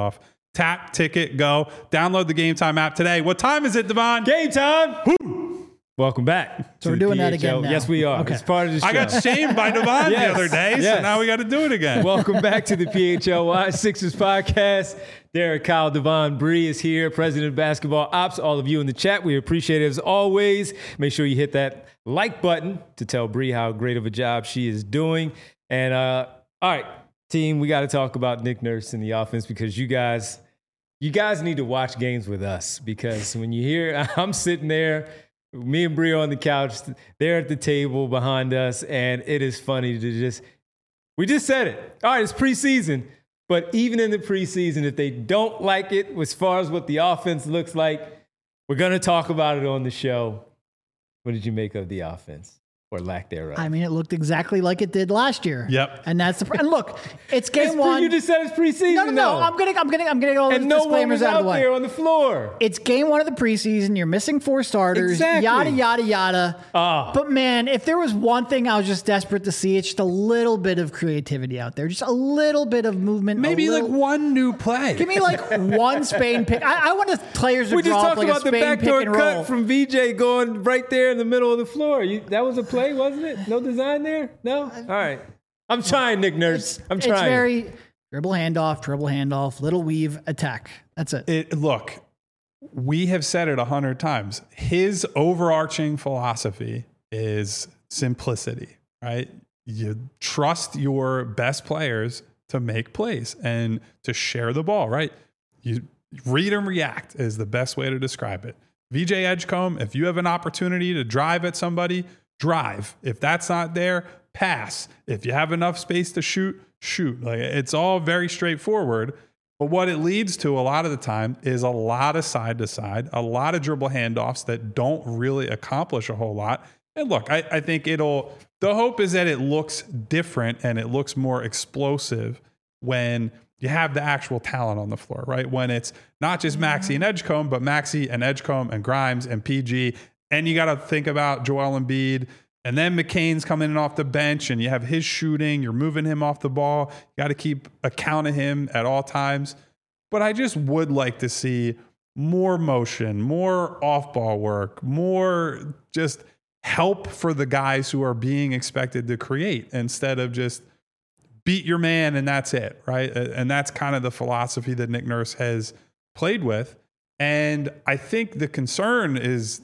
Tap, ticket, go. Download the Game Time app today. What time is it, Devon? Game time. Welcome back. So to we're the doing that P H L. again now. Yes, we are. Okay. It's part of the show. I got shamed by Devon Yes, the other day, yes. so now we got to do it again. Welcome back to the P H L Y Sixers podcast. Derek, Kyle, Devon, Bree is here, president of basketball ops. All of you in the chat, we appreciate it as always. Make sure you hit that like button to tell Bree how great of a job she is doing. And uh, all right, team, we got to talk about Nick Nurse in the offense because you guys, you guys need to watch games with us because when you hear I'm sitting there. Me and Bree are on the couch. They're at the table behind us, and it is funny to just – we just said it. All right, it's preseason, but even in the preseason, if they don't like it as far as what the offense looks like, we're going to talk about it on the show. What did you make of the offense or lack thereof? I mean, it looked exactly like it did last year. Yep. And that's the and look, it's game It's pre- one. You just said it's preseason, no, no, no. though. I'm gonna, I'm gonna, I'm gonna get all and the no one disclaimers was out out of the way. there on the floor. It's game one of the preseason. You're missing four starters. Exactly. Yada yada yada. Ah. But man, if there was one thing I was just desperate to see, it's just a little bit of creativity out there, just a little bit of movement. a Maybe little- like one new play. Give me like one Spain pick. I, I want the players to We just draw up talked like about a the Spain backdoor pick and roll. cut from V J going right there in the middle of the floor. You, that was a play, wasn't it? No design there? No? All right. I'm trying, Nick Nurse. I'm trying. It's very dribble handoff, dribble handoff, little weave, attack. That's it. It, look, we have said it a hundred times. His overarching philosophy is simplicity, right? You trust your best players to make plays and to share the ball, right? You read and react is the best way to describe it. V J Edgecombe, if you have an opportunity to drive at somebody, drive. If that's not there, pass. If you have enough space to shoot, shoot. Like it's all very straightforward. But what it leads to a lot of the time is a lot of side to side, a lot of dribble handoffs that don't really accomplish a whole lot. And look, I, I think it'll, the hope is that it looks different and it looks more explosive when you have the actual talent on the floor, right? When it's not just Maxey and Edgecombe, but Maxey and Edgecombe and Grimes and P G. And you got to think about Joel Embiid. And then McCain's coming in off the bench and you have his shooting. You're moving him off the ball. You got to keep account of him at all times. But I just would like to see more motion, more off-ball work, more just help for the guys who are being expected to create instead of just beat your man and that's it, right? And that's kind of the philosophy that Nick Nurse has played with. And I think the concern is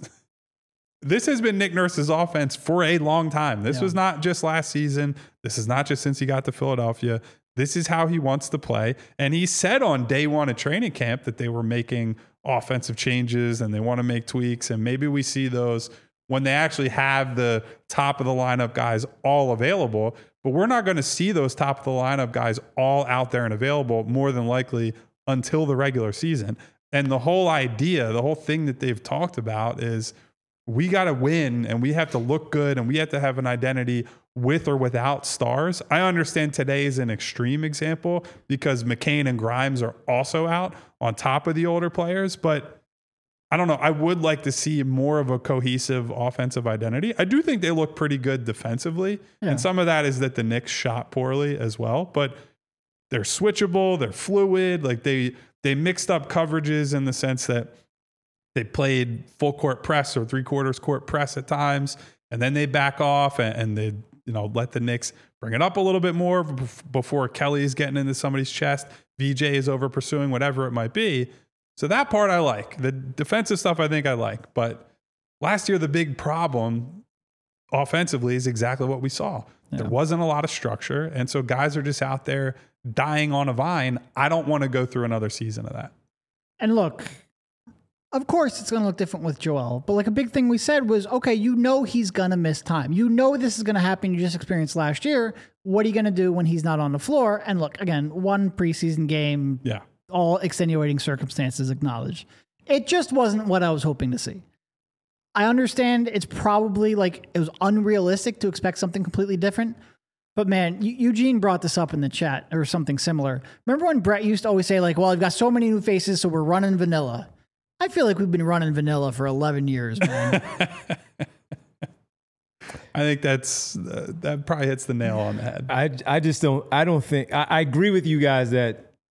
this has been Nick Nurse's offense for a long time. This Yeah. was not just last season. This is not just since he got to Philadelphia. This is how he wants to play. And he said on day one of training camp that they were making offensive changes and they want to make tweaks. And maybe we see those when they actually have the top of the lineup guys all available. But we're not going to see those top of the lineup guys all out there and available more than likely until the regular season. And the whole idea, the whole thing that they've talked about is we got to win and we have to look good and we have to have an identity with or without stars. I understand today is an extreme example because McCain and Grimes are also out on top of the older players, but I don't know. I would like to see more of a cohesive offensive identity. I do think they look pretty good defensively. Yeah. And some of that is that the Knicks shot poorly as well, but they're switchable. They're fluid. Like they, they mixed up coverages in the sense that they played full court press or three quarters court press at times. And then they back off and, and they, you know, let the Knicks bring it up a little bit more before Kelly's getting into somebody's chest. V J is over pursuing, whatever it might be. So that part I like. The defensive stuff I think I like. But last year, the big problem offensively is exactly what we saw. Yeah. There wasn't a lot of structure. And so guys are just out there dying on a vine. I don't want to go through another season of that. And look, of course it's going to look different with Joel. But like a big thing we said was, okay, you know he's going to miss time. You know this is going to happen. You just experienced last year. What are you going to do when he's not on the floor? And look, again, one preseason game. Yeah. All extenuating circumstances acknowledged. It just wasn't what I was hoping to see. I understand it's probably like it was unrealistic to expect something completely different. But man, Eugene brought this up in the chat or something similar. Remember when Brett used to always say like, well, I've got so many new faces, so we're running vanilla. I feel like we've been running vanilla for eleven years, man. I think that's uh, that probably hits the nail on the head. I, I just don't I don't think I, I agree with you guys that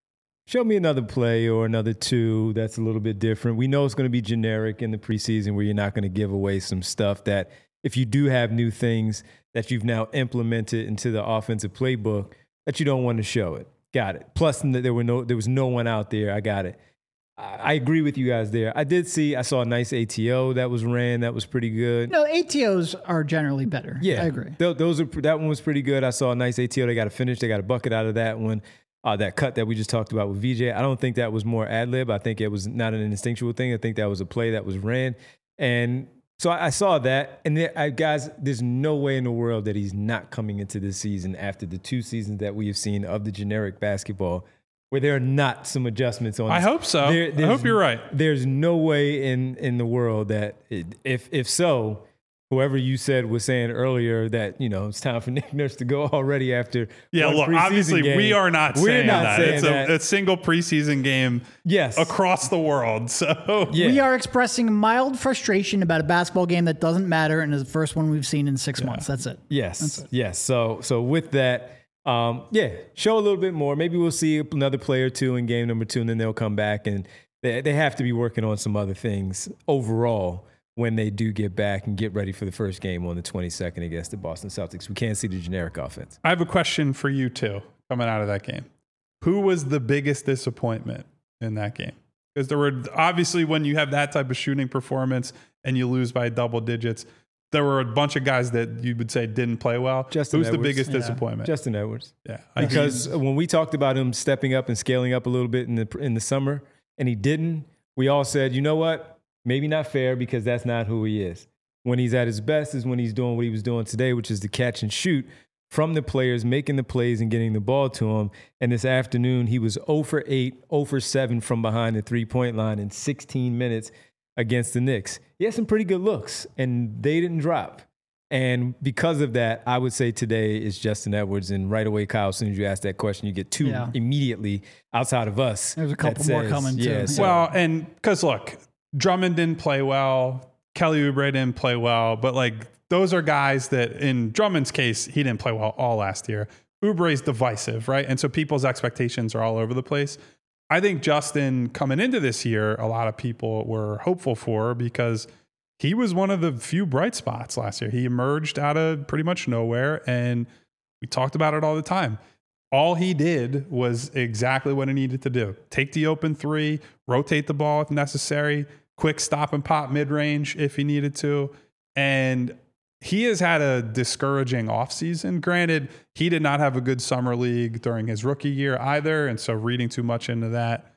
show me another play or another two that's a little bit different. We know it's going to be generic in the preseason where you're not going to give away some stuff that if you do have new things that you've now implemented into the offensive playbook that you don't want to show it. Got it. Plus, there were no, there was no one out there. I got it. I agree with you guys there. I did see, I saw a nice A T O that was ran. That was pretty good. No, A T Os are generally better. Yeah, I agree. Th- those are that one was pretty good. I saw a nice A T O. They got a finish. They got a bucket out of that one. Uh, that cut that we just talked about with V J. I don't think that was more ad lib. I think it was not an instinctual thing. I think that was a play that was ran. And so I, I saw that. And there, I, guys, there's no way in the world that he's not coming into this season after the two seasons that we have seen of the generic basketball, where there are not some adjustments on. I this. hope so. There, I hope you're right. There's no way in, in the world that it, if if so, whoever you said was saying earlier that, you know, it's time for Nick Nurse to go already after. Yeah, one look, preseason obviously game. we are not We're saying not that. saying It's that. a, a single preseason game Yes. across the world. So Yeah. We are expressing mild frustration about a basketball game that doesn't matter and is the first one we've seen in six months. That's it. Yes. Yes. So so with that, um, yeah, show a little bit more. Maybe we'll see another play or two in game number two, and then they'll come back and they they have to be working on some other things overall when they do get back and get ready for the first game on the twenty-second against the Boston Celtics. We can't see the generic offense. I have a question for you too, coming out of that game. Who was the biggest disappointment in that game? Because there were obviously, when you have that type of shooting performance and you lose by double digits, there were a bunch of guys that you would say didn't play well. Justin Who's Edwards. the biggest Yeah. disappointment? Justin Edwards. yeah, I Because think- when we talked about him stepping up and scaling up a little bit in the in the summer, and he didn't, we all said, you know what? Maybe not fair because that's not who he is. When he's at his best is when he's doing what he was doing today, which is to catch and shoot from the players, making the plays and getting the ball to him. And this afternoon, he was zero for eight, zero for seven from behind the three-point line in sixteen minutes against the Knicks. He had some pretty good looks, and they didn't drop. And because of that, I would say today is Justin Edwards. And right away, Kyle, as soon as you ask that question, you get two Yeah. immediately outside of us. There's a couple that more says- coming, too. yeah, so- well, and because look, Drummond didn't play well. Kelly Oubre didn't play well. But like, those are guys that in Drummond's case, he didn't play well all last year. Oubre's divisive, right? And so people's expectations are all over the place. I think Justin coming into this year, a lot of people were hopeful for because he was one of the few bright spots last year. He emerged out of pretty much nowhere, and we talked about it all the time. All he did was exactly what he needed to do. Take the open three, rotate the ball if necessary, quick stop and pop mid-range if he needed to. And he has had a discouraging offseason. Granted, he did not have a good summer league during his rookie year either, and so reading too much into that,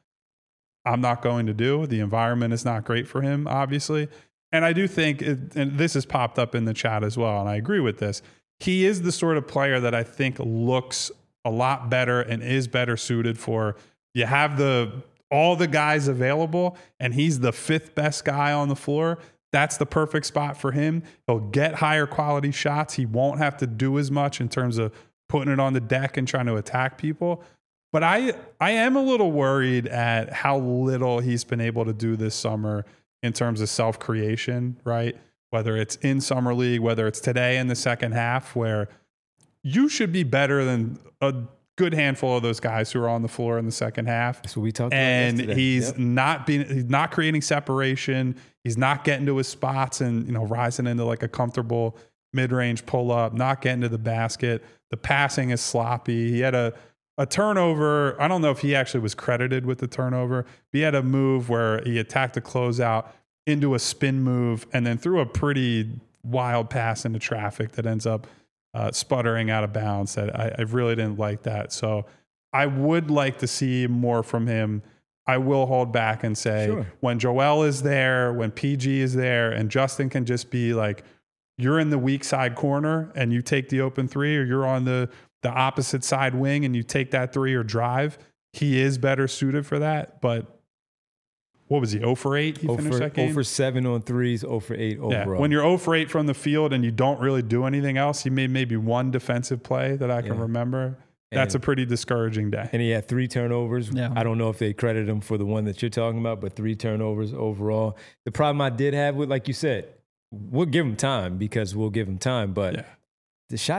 I'm not going to do. The environment is not great for him, obviously. And I do think, it, and this has popped up in the chat as well, and I agree with this, he is the sort of player that I think looks a lot better and is better suited for, you have the all the guys available, and he's the fifth best guy on the floor. That's the perfect spot for him. He'll get higher quality shots. He won't have to do as much in terms of putting it on the deck and trying to attack people. But I I am a little worried at how little he's been able to do this summer in terms of self-creation, right? Whether it's in Summer League, whether it's today in the second half, where you should be better than a good handful of those guys who are on the floor in the second half. That's what we talked about And yesterday. he's Yep. not being, he's not creating separation. He's not getting to his spots and, you know, rising into like a comfortable mid-range pull-up, not getting to the basket. The passing is sloppy. He had a, a turnover. I don't know if he actually was credited with the turnover, but he had a move where he attacked a closeout into a spin move and then threw a pretty wild pass into traffic that ends up uh, sputtering out of bounds. That I, I really didn't like that. So I would like to see more from him. I will hold back and say Sure. when Joel is there, when P G is there, and Justin can just be like, you're in the weak side corner and you take the open three, or you're on the, the opposite side wing and you take that three or drive. He is better suited for that. But what was he, zero for eight? He zero finished for, that game? zero for seven on threes, zero for eight Yeah, overall. when you're zero for eight from the field and you don't really do anything else, he made maybe one defensive play that I can Yeah. remember. That's And- a pretty discouraging day. And he had three turnovers. Yeah. I don't know if they credit him for the one that you're talking about, but three turnovers overall. The problem I did have with, like you said, we'll give him time because we'll give him time, but Yeah. the shots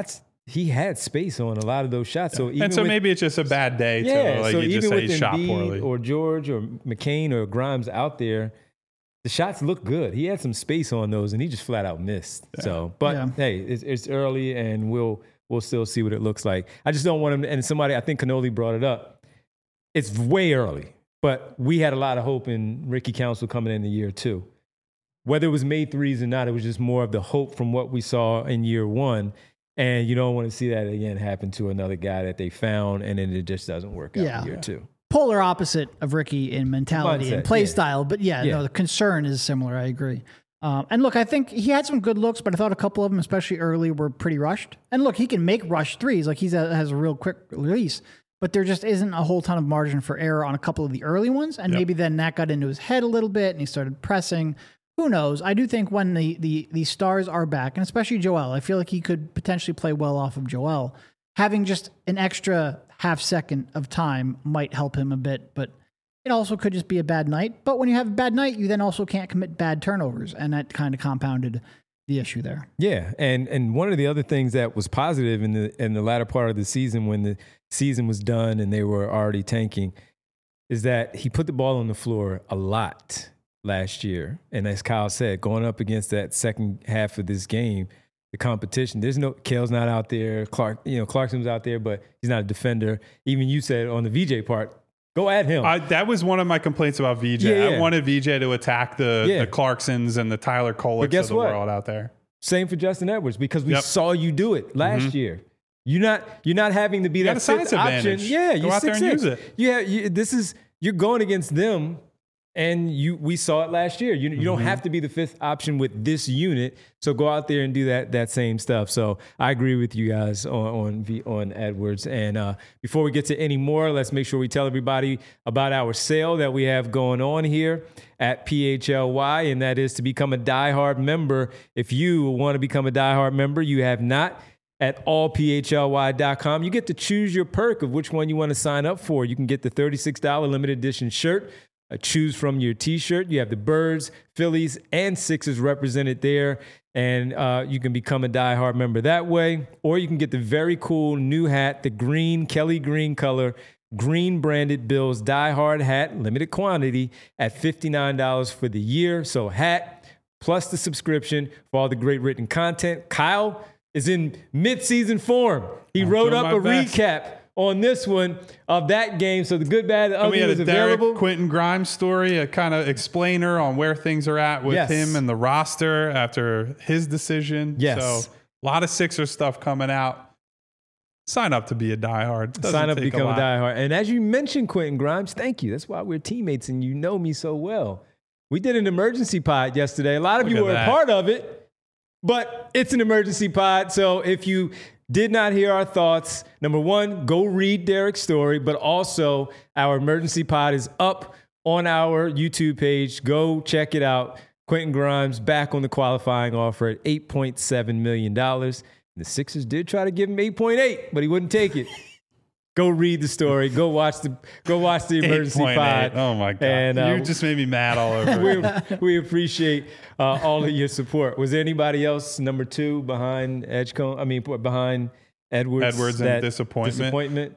he had space on a lot of those shots. So even and so with, maybe it's just a bad day. yeah, to, like so you even just say with he shot Embiid poorly. or George or McCain or Grimes out there, the shots look good. He had some space on those, and he just flat out missed. Yeah. So, but yeah. hey, it's, it's early, and we'll we'll still see what it looks like. I just don't want him. And somebody, I think Canoli brought it up. It's way early, but we had a lot of hope in Ricky Council coming in the year two. Whether it was made threes or not, it was just more of the hope from what we saw in year one. And you don't want to see that again happen to another guy that they found, and then it just doesn't work out yeah. in year two. Polar opposite of Ricky in mentality Mindset, and play yeah. style. But yeah, Yeah. no, the concern is similar. I agree. Um, and look, I think he had some good looks, but I thought a couple of them, especially early, were pretty rushed. And look, he can make rush threes. Like he has a real quick release, but there just isn't a whole ton of margin for error on a couple of the early ones. And Yep. maybe then that got into his head a little bit and he started pressing. Who knows? I do think when the, the, the stars are back, and especially Joel, I feel like he could potentially play well off of Joel. Having just an extra half second of time might help him a bit, but it also could just be a bad night. But when you have a bad night, you then also can't commit bad turnovers, and that kind of compounded the issue there. Yeah, and and one of the other things that was positive in the in the latter part of the season, when the season was done and they were already tanking, is that he put the ball on the floor a lot last year. And as Kyle said, going up against that second half of this game, the competition, there's no, Kale's not out there, Clark, you know, Clarkson's out there, but he's not a defender. Even you said on the V J part, go at him. I, that was one of my complaints about V J. Yeah, yeah. I wanted V J to attack the, Yeah. the Clarksons and the Tyler Koleks guess of the what? world out there. Same for Justin Edwards, because we Yep. saw you do it last Mhm. year. You're not you're not having to be You got that a size fifth option. advantage. Yeah, Go you're out there six, and six. use it. Yeah, you, this is you're going against them, and you we saw it last year. You you don't have to be the fifth option with this unit. So go out there and do that that same stuff. So I agree with you guys on on, v, on Edwards. And uh, before we get to any more, let's make sure we tell everybody about our sale that we have going on here at P H L Y, and that is to become a diehard member. If you want to become a diehard member, you have not. At all P H L Y dot com, you get to choose your perk of which one you want to sign up for. You can get the thirty-six dollars limited edition shirt. Uh, choose from your t-shirt. You have the Birds, Phillies, and Sixers represented there. And uh, you can become a diehard member that way. Or you can get the very cool new hat, the green, Kelly green color, green branded Bills diehard hat, limited quantity at fifty-nine dollars for the year. So hat plus the subscription for all the great written content. Kyle is in mid-season form. He I'm wrote doing up my a best. recap on this one of that game. So the good, bad, the And we ugly had was a Derek available. Quentin Grimes story, a kind of explainer on where things are at with Yes. him and the roster after his decision. Yes. So a lot of Sixer stuff coming out. Sign up to be a diehard. Doesn't Sign up, take become a, lot. diehard. And as you mentioned, Quentin Grimes, thank you. That's why we're teammates and you know me so well. We did an emergency pod yesterday. A lot of Look you at were that. a part of it, but it's an emergency pod. So if you did not hear our thoughts, number one, go read Derek's story, but also our emergency pod is up on our YouTube page. Go check it out. Quentin Grimes back on the qualifying offer at eight point seven million dollars. The Sixers did try to give him eight point eight, but he wouldn't take it. Go read the story. Go watch the go watch the emergency eight point eight. pod. Oh my God. And, uh, you just made me mad all over. we, we appreciate uh, all of your support. Was there anybody else number two behind Edgecombe? I mean, behind Edwards. Edwards and that disappointment. Disappointment.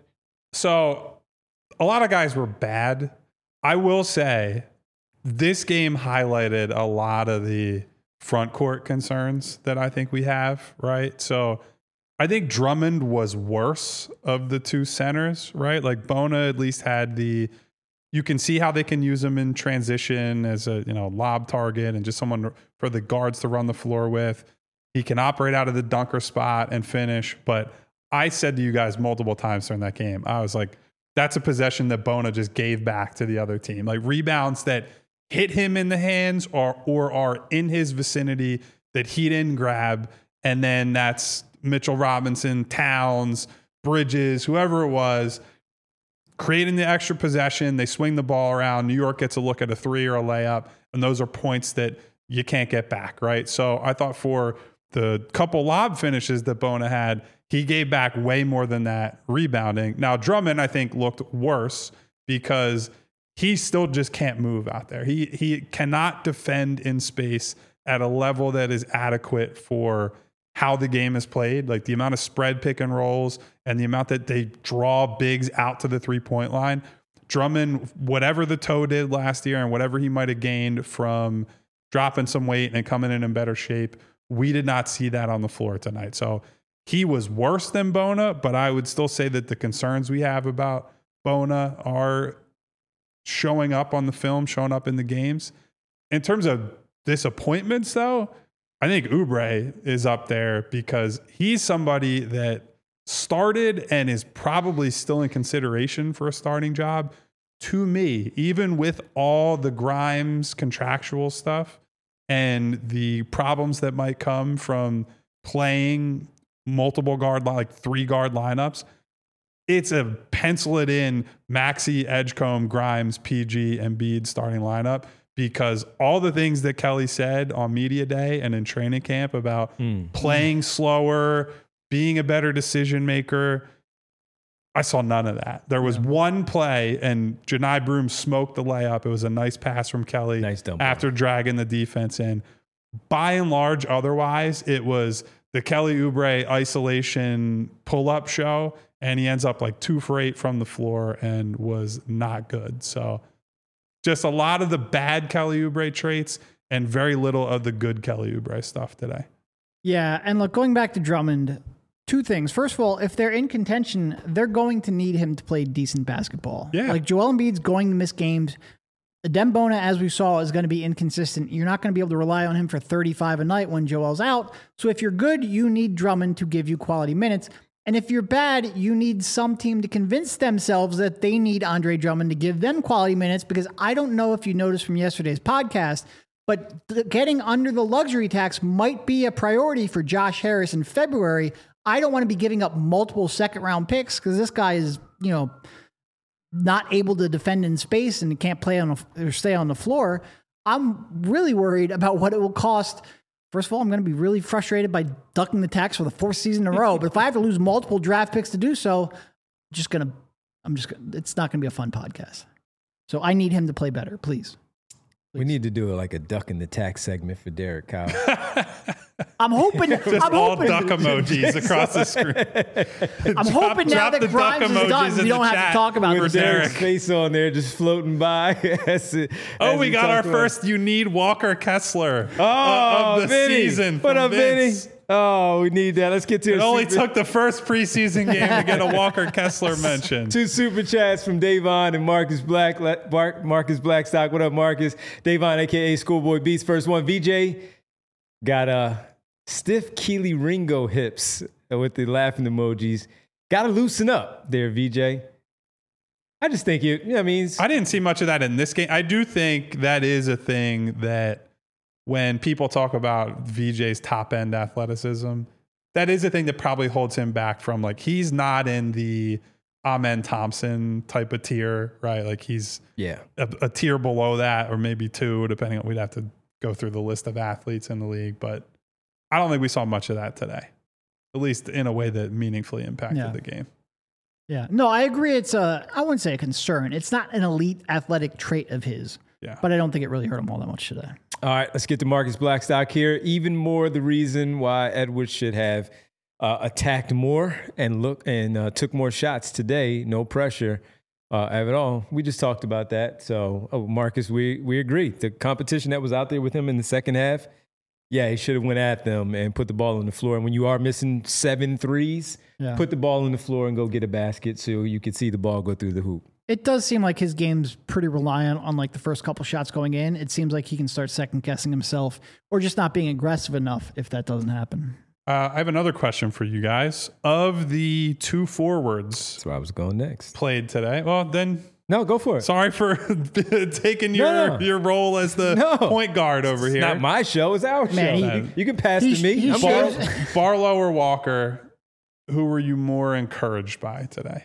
So a lot of guys were bad. I will say this game highlighted a lot of the front court concerns that I think we have, right? So I think Drummond was worse of the two centers, right? Like Bona at least had the, you can see how they can use him in transition as a, you know, lob target and just someone for the guards to run the floor with. He can operate out of the dunker spot and finish. But I said to you guys multiple times during that game, I was like, that's a possession that Bona just gave back to the other team. Like rebounds that hit him in the hands or, or are in his vicinity that he didn't grab. And then that's Mitchell Robinson, Towns, Bridges, whoever it was, creating the extra possession. They swing the ball around. New York gets a look at a three or a layup. And those are points that you can't get back, right? So I thought for the couple lob finishes that Bona had, he gave back way more than that rebounding. Now, Drummond, I think, looked worse because he still just can't move out there. He he cannot defend in space at a level that is adequate for how the game is played, like the amount of spread pick and rolls and the amount that they draw bigs out to the three-point line. Drummond, whatever the toe did last year and whatever he might have gained from dropping some weight and coming in in better shape, we did not see that on the floor tonight. So he was worse than Bona, but I would still say that the concerns we have about Bona are showing up on the film, showing up in the games. In terms of disappointments, though, I think Oubre is up there because he's somebody that started and is probably still in consideration for a starting job. To me, even with all the Grimes contractual stuff and the problems that might come from playing multiple guard, like three guard lineups, it's a pencil it in Maxey, Edgecombe, Grimes, P G, Embiid starting lineup, because all the things that Kelly said on media day and in training camp about mm. playing slower, being a better decision maker, I saw none of that. There was yeah. one play and Janai Broom smoked the layup. It was a nice pass from Kelly nice after dragging the defense in. By and large, otherwise, it was the Kelly Oubre isolation pull-up show, and he ends up like two for eight from the floor and was not good. So just a lot of the bad Kelly Oubre traits and very little of the good Kelly Oubre stuff today. Yeah, and look, going back to Drummond, two things. First of all, if they're in contention, they're going to need him to play decent basketball. Yeah. Like Joel Embiid's going to miss games. Adem Bona, as we saw, is going to be inconsistent. You're not going to be able to rely on him for thirty-five a night when Joel's out. So if you're good, you need Drummond to give you quality minutes. And if you're bad, you need some team to convince themselves that they need Andre Drummond to give them quality minutes, because I don't know if you noticed from yesterday's podcast, but th- getting under the luxury tax might be a priority for Josh Harris in February. I don't want to be giving up multiple second round picks because this guy is, you know, not able to defend in space and can't play on the, or stay on the floor. I'm really worried about what it will cost. First of all, I'm going to be really frustrated by ducking the tax for the fourth season in a row. But if I have to lose multiple draft picks to do so, I'm just going to, I'm just, gonna, it's not going to be a fun podcast. So I need him to play better, please. Please. We need to do like a duck in the tax segment for Derek Kyle. I'm hoping. Just I'm all hoping, duck emojis across the screen. I'm drop, hoping now that Grimes is done, we don't have to talk about with this. Derek's face on there, just floating by. as it, oh, as we got our about. first. You need Walker Kessler. Oh, uh, of the Vinny. season. What up, Vince. Vinny? Oh, we need that. Let's get to it. It only super- took the first preseason game to get a Walker Kessler mention. Two super chats from Davon and Marcus Black. Mark, Marcus Blackstock. What up, Marcus? Davon, a k a. Schoolboy Beats. First one, V J got a stiff Keely Ringo hips with the laughing emojis. Got to loosen up there, V J. I just think you, you know what I mean? I didn't see much of that in this game. I do think that is a thing that when people talk about V J's top end athleticism, that is a thing that probably holds him back from, like, he's not in the Amen Thompson type of tier, right? Like he's yeah a, a tier below that, or maybe two, depending on, we'd have to go through the list of athletes in the league. But I don't think we saw much of that today, at least in a way that meaningfully impacted yeah. the game. Yeah, no, I agree. It's a, I wouldn't say a concern. It's not an elite athletic trait of his, yeah. but I don't think it really hurt him all that much today. All right, let's get to Marcus Blackstock here. Even more the reason why Edwards should have uh, attacked more and look and uh, took more shots today. No pressure uh, at all. We just talked about that. So, oh, Marcus, we we agree. The competition that was out there with him in the second half, yeah, he should have went at them and put the ball on the floor. And when you are missing seven threes, yeah. put the ball on the floor and go get a basket so you could see the ball go through the hoop. It does seem like his game's pretty reliant on like the first couple shots going in. It seems like he can start second guessing himself or just not being aggressive enough if that doesn't happen. Uh, I have another question for you guys. Of the two forwards, that's where I was going next, played today. Well, then no, go for it. Sorry for taking your no, no. your role as the no. point guard over it's here. Not my show. It's our Man, show. he, you can pass he, to me. He I'm Bar- Barlow or Walker, who were you more encouraged by today?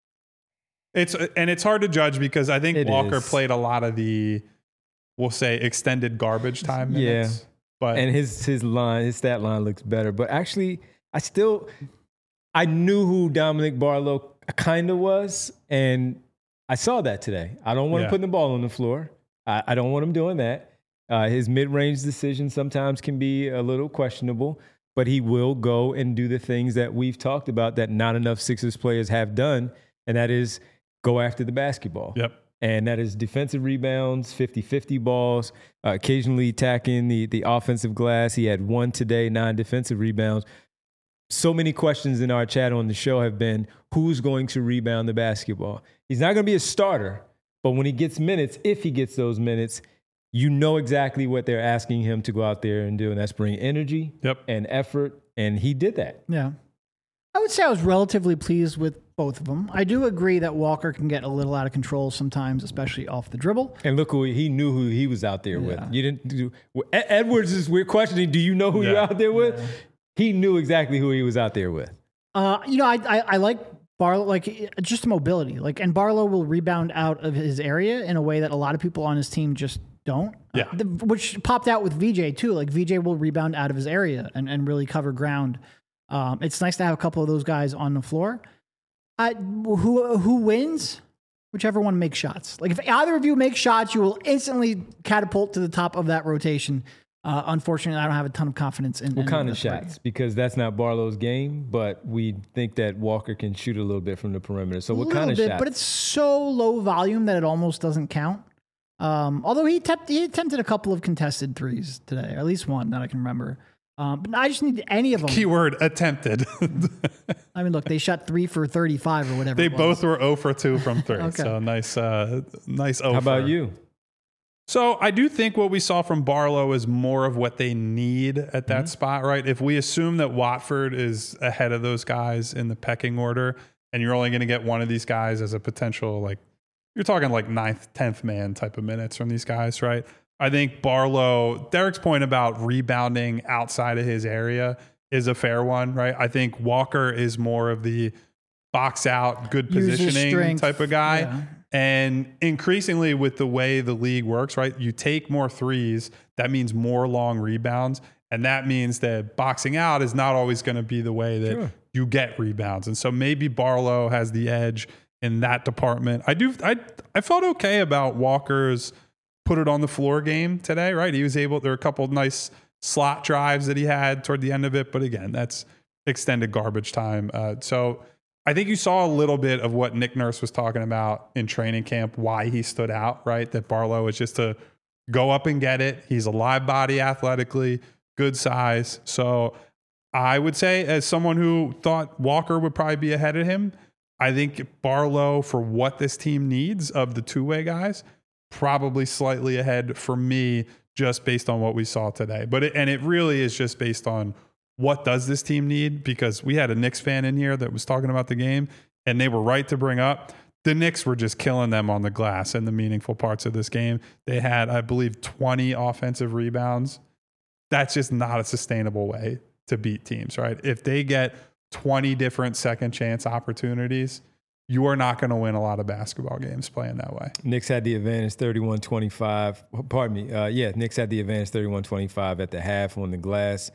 It's and it's hard to judge because I think it Walker is. played a lot of the, we'll say, extended garbage time minutes. Yeah, but and his his line, his stat line looks better. But actually, I still, I knew who Dominic Barlow kind of was, and I saw that today. I don't want yeah. him putting the ball on the floor. I, I don't want him doing that. Uh, his mid-range decisions sometimes can be a little questionable. but he will go and do the things that we've talked about that not enough Sixers players have done, and that is go after the basketball. Yep. And that is defensive rebounds, fifty-fifty balls, uh, occasionally attacking the, the offensive glass. He had one today, nine defensive rebounds. So many questions in our chat on the show have been, who's going to rebound the basketball? He's not going to be a starter, but when he gets minutes, if he gets those minutes, you know exactly what they're asking him to go out there and do, and that's bring energy Yep. and effort, and he did that. Yeah. I would say I was relatively pleased with both of them. I do agree that Walker can get a little out of control sometimes, especially off the dribble. And look who he knew who he was out there Yeah. with. You didn't do, Edwards is we're questioning, do you know who Yeah. you're out there with? He knew exactly who he was out there with. Uh, you know, I, I, I like Barlow, like just mobility. Like, and Barlow will rebound out of his area in a way that a lot of people on his team just don't. Yeah. Uh, the, which popped out with V J too. Like V J will rebound out of his area and, and really cover ground. Um, it's nice to have a couple of those guys on the floor. I, who who wins? Whichever one makes shots. Like if either of you make shots, you will instantly catapult to the top of that rotation. Uh, unfortunately, I don't have a ton of confidence in What in kind the of three. shots? Because that's not Barlow's game, but we think that Walker can shoot a little bit from the perimeter. So A what little kind of bit, shots? but it's so low volume that it almost doesn't count. Um, although he, te- he attempted a couple of contested threes today, or at least one that I can remember. Um, but I just need any of them. Keyword attempted. I mean, look, they shot three for thirty-five or whatever. They it was. both were zero for two from three. Okay. So nice, uh, nice over. How about you? So I do think what we saw from Barlow is more of what they need at that spot, right? If we assume that Watford is ahead of those guys in the pecking order, and you're only going to get one of these guys as a potential, like, you're talking like ninth, tenth man type of minutes from these guys, right? I think Barlow, Derek's point about rebounding outside of his area is a fair one, right? I think Walker is more of the box out, good Use his positioning strength. type of guy. Yeah. And increasingly with the way the league works, right? You take more threes, that means more long rebounds. And that means that boxing out is not always going to be the way that Sure. you get rebounds. And so maybe Barlow has the edge in that department. I do, I, I felt okay about Walker's put it on the floor game today, right? He was able, there were a couple of nice slot drives that he had toward the end of it. But again, that's extended garbage time. Uh, so I think you saw a little bit of what Nick Nurse was talking about in training camp, why he stood out, right? That Barlow is just to go up and get it. He's a live body athletically, good size. So I would say, as someone who thought Walker would probably be ahead of him, I think Barlow, for what this team needs of the two-way guys, probably slightly ahead for me, just based on what we saw today. But it, and it really is just based on what does this team need? Because we had a Knicks fan in here that was talking about the game, and they were right to bring up the Knicks were just killing them on the glass in the meaningful parts of this game. They had, I believe, twenty offensive rebounds. That's just not a sustainable way to beat teams, right? If they get twenty different second chance opportunities, you are not going to win a lot of basketball games playing that way. Knicks had the advantage thirty-one twenty-five. Pardon me. Uh, yeah, Knicks had the advantage thirty-one twenty-five at the half on the glass.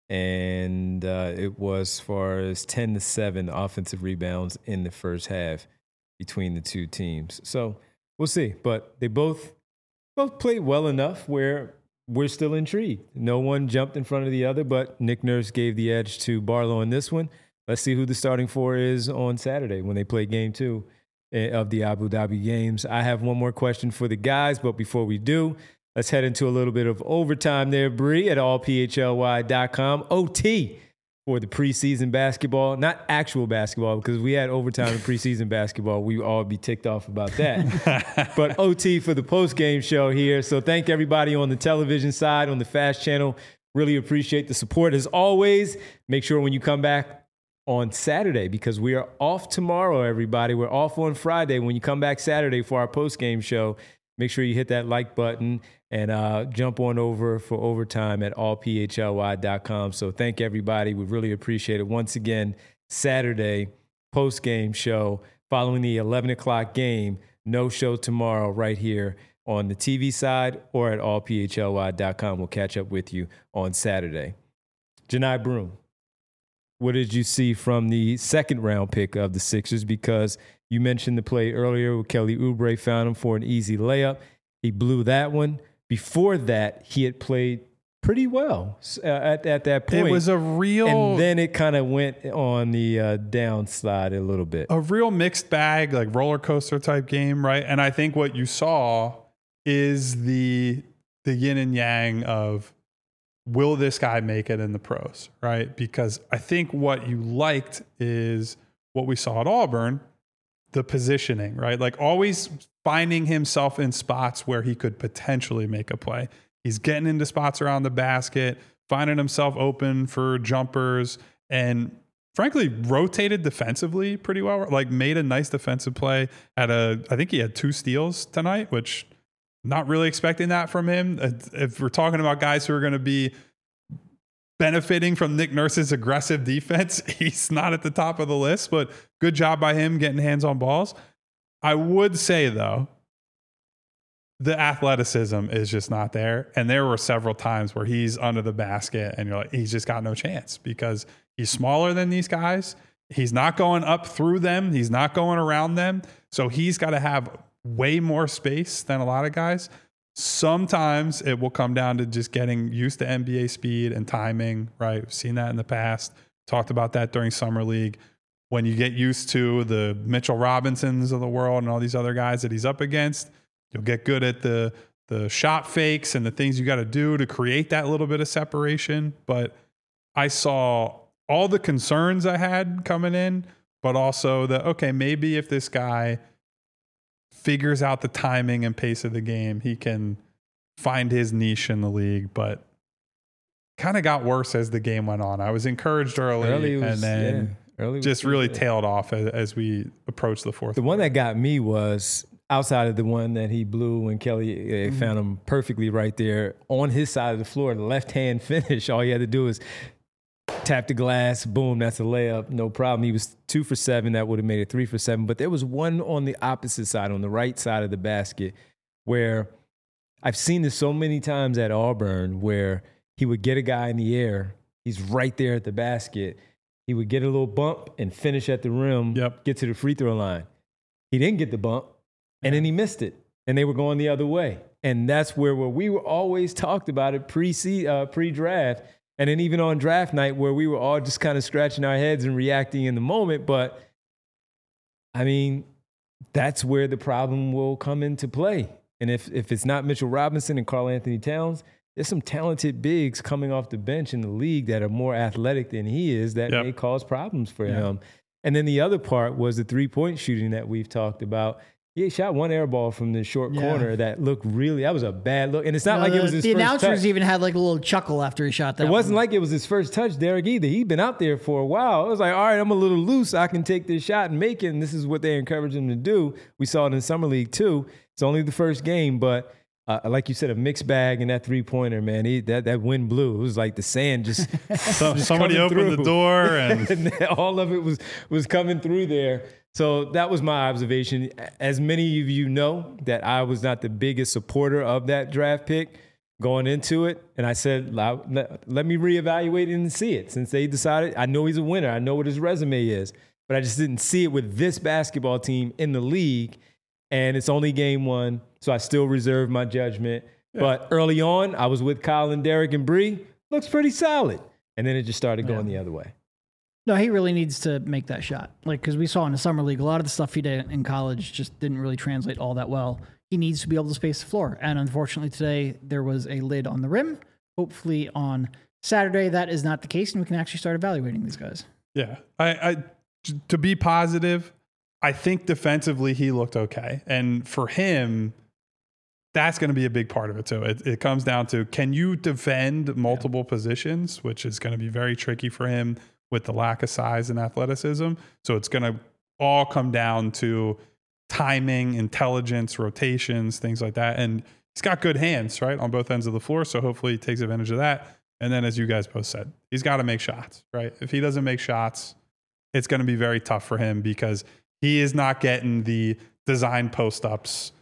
And uh, it was as far as ten to seven offensive rebounds in the first half between the two teams. So we'll see. But they both both played well enough where we're still intrigued. No one jumped in front of the other, but Nick Nurse gave the edge to Barlow in this one. Let's see who the starting four is on Saturday when they play game two of the Abu Dhabi games. I have one more question for the guys, but before we do, let's head into a little bit of overtime there, Bree, at all p h l y dot com. O T for the preseason basketball, not actual basketball, because we had overtime in preseason basketball. We all be ticked off about that. But O T for the post-game show here. So thank everybody on the television side, on the Fast Channel. Really appreciate the support. As always, make sure when you come back on Saturday, because we are off tomorrow, everybody. We're off on Friday. When you come back Saturday for our post-game show, make sure you hit that like button and uh, jump on over for overtime at all p h l y dot com. So thank everybody. We really appreciate it. Once again, Saturday, post-game show, following the eleven o'clock game. No show tomorrow right here on the T V side or at all p h l y dot com. We'll catch up with you on Saturday. Janai Broom, what did you see from the second round pick of the Sixers? Because you mentioned the play earlier where Kelly Oubre found him for an easy layup. He blew that one. Before that, he had played pretty well uh, at, at that point. It was a real, and then it kind of went on the uh, downslide a little bit. a real mixed bag, like roller coaster type game, right? And I think what you saw is the the yin and yang of, will this guy make it in the pros, right? Because I think what you liked is what we saw at Auburn, the positioning, right? Like always finding himself in spots where he could potentially make a play. He's getting into spots around the basket, finding himself open for jumpers, and frankly rotated defensively pretty well. Like made a nice defensive play. Had a, I think he had two steals tonight, which not really expecting that from him. If we're talking about guys who are going to be benefiting from Nick Nurse's aggressive defense, he's not at the top of the list, but good job by him getting hands on balls. I would say though, the athleticism is just not there. And there were several times where he's under the basket and you're like, he's just got no chance because he's smaller than these guys. He's not going up through them. He's not going around them. So he's got to have way more space than a lot of guys. Sometimes it will come down to just getting used to N B A speed and timing, right? We've seen that in the past. Talked about that during Summer League. When you get used to the Mitchell Robinsons of the world and all these other guys that he's up against, you'll get good at the the shot fakes and the things you got to do to create that little bit of separation. But I saw all the concerns I had coming in, but also the, okay, maybe if this guy figures out the timing and pace of the game, he can find his niche in the league. But kind of got worse as the game went on. I was encouraged early, early was, and then yeah, early just really good. tailed off as, as we approached the fourth. The one that got me was outside of the one that he blew when Kelly uh, mm-hmm. found him perfectly right there on his side of the floor, the left-hand finish. All he had to do was tap the glass, boom, that's a layup, no problem. He was two for seven. That would have made it three for seven. But there was one on the opposite side, on the right side of the basket, where I've seen this so many times at Auburn where he would get a guy in the air. He's right there at the basket. He would get a little bump and finish at the rim, yep. get to the free throw line. He didn't get the bump, and then he missed it, and they were going the other way. And that's where, where we were always talked about it pre uh, pre-draft. And then even on draft night where we were all just kind of scratching our heads and reacting in the moment. But, I mean, that's where the problem will come into play. And if if it's not Mitchell Robinson and Karl Anthony Towns, there's some talented bigs coming off the bench in the league that are more athletic than he is that yep. may cause problems for yeah. him. And then the other part was the three-point shooting that we've talked about. He shot one air ball from the short yeah. corner that looked really, that was a bad look. And it's not no, like it was his the first touch. The announcers even had like a little chuckle after he shot that. It wasn't one. like it was his first touch, Derek, either. He'd been out there for a while. It was like, all right, I'm a little loose. I can take this shot and make it. And this is what they encouraged him to do. We saw it in Summer League too. It's only the first game, but uh, like you said, a mixed bag and that three-pointer, man, he, that, that wind blew. It was like the sand just, so, just somebody opened through. the door. And, and all of it was was coming through there. So that was my observation. As many of you know, that I was not the biggest supporter of that draft pick going into it. And I said, let, let me reevaluate it and see it. Since they decided, I know he's a winner. I know what his resume is. But I just didn't see it with this basketball team in the league. And it's only game one, so I still reserve my judgment. Yeah. But early on, I was with Kyle and Derek and Bree. Looks pretty solid. And then it just started going yeah. the other way. No, he really needs to make that shot. Like, because we saw in the Summer League, a lot of the stuff he did in college just didn't really translate all that well. He needs to be able to space the floor. And unfortunately today, there was a lid on the rim. Hopefully on Saturday, that is not the case, and we can actually start evaluating these guys. Yeah. I, I to be positive, I think defensively he looked okay. And for him, that's going to be a big part of it too. It, it comes down to, can you defend multiple yeah. positions, which is going to be very tricky for him with the lack of size and athleticism. So it's going to all come down to timing, intelligence, rotations, things like that. And he's got good hands, right, on both ends of the floor. So hopefully he takes advantage of that. And then, as you guys both said, he's got to make shots, right? If he doesn't make shots, it's going to be very tough for him because he is not getting the design post-ups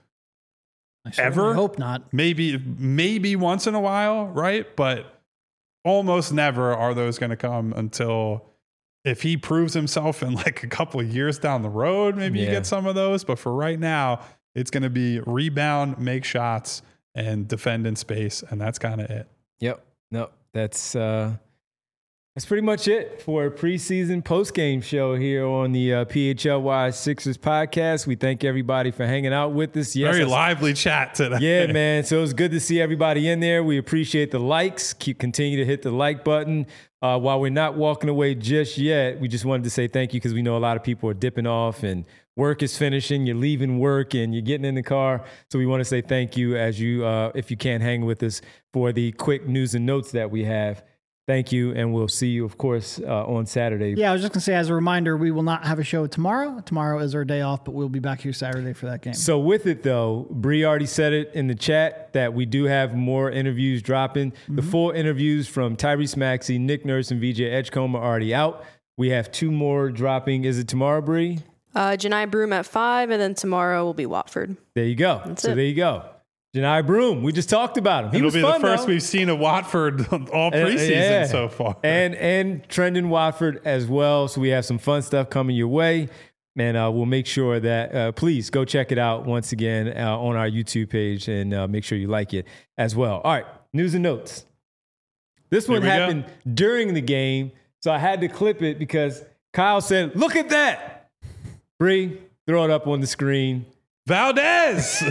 ever. I hope not. Maybe, maybe once in a while, right? But almost never are those going to come until if he proves himself in like a couple of years down the road, maybe yeah. you get some of those. But for right now, it's going to be rebound, make shots, and defend in space. And that's kind of it. Yep. no, that's uh, that's pretty much it for a preseason post-game show here on the uh, P H L Y Sixers podcast. We thank everybody for hanging out with us. Yes, Very I- lively chat today. Yeah, man. So it's good to see everybody in there. We appreciate the likes. Keep continue to hit the like button. Uh, while we're not walking away just yet, we just wanted to say thank you because we know a lot of people are dipping off and work is finishing. You're leaving work and you're getting in the car. So we want to say thank you as you, uh, if you can, hang with us for the quick news and notes that we have. Thank you, and we'll see you, of course, uh, on Saturday. Yeah, I was just going to say, as a reminder, we will not have a show tomorrow. Tomorrow is our day off, but we'll be back here Saturday for that game. So with it, though, Bree already said it in the chat that we do have more interviews dropping. Mm-hmm. The full interviews from Tyrese Maxey, Nick Nurse, and V J Edgecombe are already out. We have two more dropping. Is it tomorrow, Bree? Uh, Janai Broom at five, and then tomorrow will be Watford. There you go. That's so it. there you go. Janai Broom. We just talked about him. He It'll was be fun, the first though. we've seen of Watford all Uh, preseason yeah. so far. And and Trendon Watford as well. So we have some fun stuff coming your way. And uh, we'll make sure that, uh, please go check it out once again uh, on our YouTube page and uh, make sure you like it as well. All right, news and notes. This one Here we happened during the game, so I had to clip it because Kyle said, look at that. Bree, throw it up on the screen. Valdez.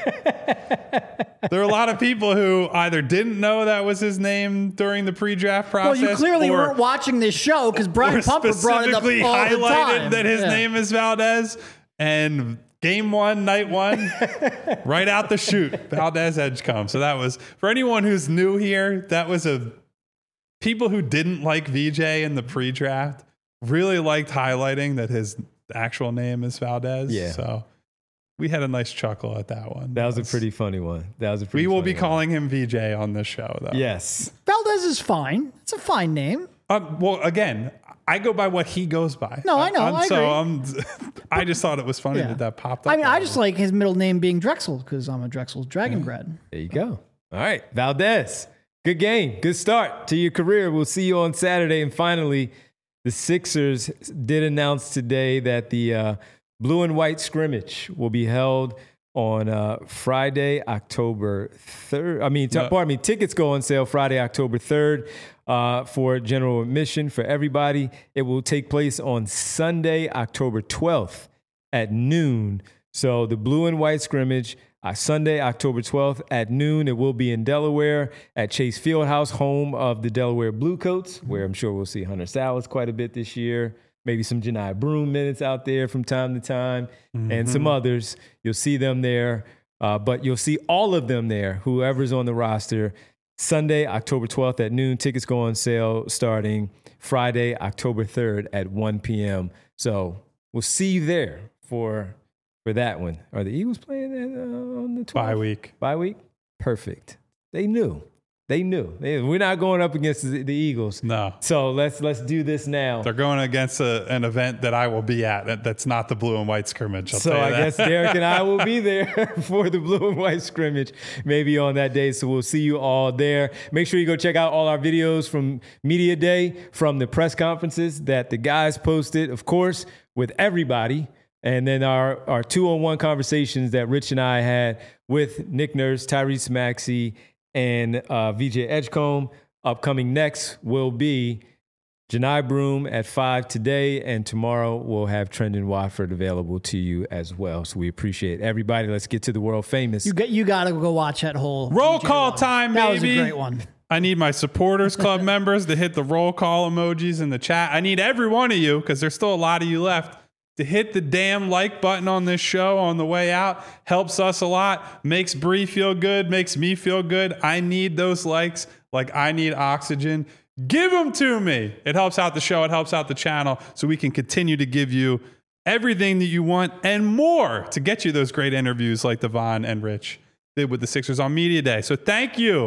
There are a lot of people who either didn't know that was his name during the pre-draft process. Well, you clearly or, weren't watching this show because Brian or Pumper brought it up all specifically the highlighted time. that his Yeah. name is Valdez. And game one, night one, right out the chute, Valdez Edgecombe. So that was, for anyone who's new here, that was a, people who didn't like V J in the pre-draft really liked highlighting that his actual name is Valdez. Yeah. So we had a nice chuckle at that one. That was a pretty funny one. That was a pretty We will funny be one. calling him V J on this show, though. Yes. Valdez is fine. It's a fine name. Um, well, again, I go by what he goes by. No, I know, I'm- I so agree. I'm, I just thought it was funny Yeah. that that popped up. I mean, I on just me. like his middle name being Drexel because I'm a Drexel Dragon grad. There you go. All right, Valdez. Good game. Good start to your career. We'll see you on Saturday. And finally, the Sixers did announce today that the uh, blue and white scrimmage will be held on uh, Friday, October third. I mean, t- No. pardon me, tickets go on sale Friday, October third uh, for general admission for everybody. It will take place on Sunday, October twelfth at noon. So the blue and white scrimmage, uh, Sunday, October twelfth at noon. It will be in Delaware at Chase Fieldhouse, home of the Delaware Bluecoats, where I'm sure we'll see Hunter Salas quite a bit this year. Maybe some Janai Broom minutes out there from time to time, and some others. You'll see them there, uh, but you'll see all of them there, whoever's on the roster, Sunday, October twelfth at noon. Tickets go on sale starting Friday, October third at one p.m. So we'll see you there for for that one. Are the Eagles playing that, uh, on the twelfth? bye week. Bye week? Perfect. They knew. They knew. They, we're not going up against the, the Eagles. No. So let's let's do this now. They're going against a, an event that I will be at. That, that's not the blue and white scrimmage. I'll So tell you I that. guess Derek and I will be there for the blue and white scrimmage, maybe on that day. So we'll see you all there. Make sure you go check out all our videos from Media Day, from the press conferences that the guys posted, of course, with everybody. And then our, our two-on-one conversations that Rich and I had with Nick Nurse, Tyrese Maxey, and uh, V J Edgecombe. Upcoming next will be Janai Broom at five today, and tomorrow we'll have Trendon Watford available to you as well. So we appreciate everybody. Let's get to the world famous. You get you got to go watch that whole Roll D J call one. time, That was a baby. great one. I need my supporters club members to hit the roll call emojis in the chat. I need every one of you, because there's still a lot of you left, to hit the damn like button on this show on the way out. Helps us a lot. Makes Bree feel good. Makes me feel good. I need those likes like I need oxygen. Give them to me. It helps out the show. It helps out the channel, so we can continue to give you everything that you want and more to get you those great interviews like Devon and Rich did with the Sixers on Media Day. So thank you.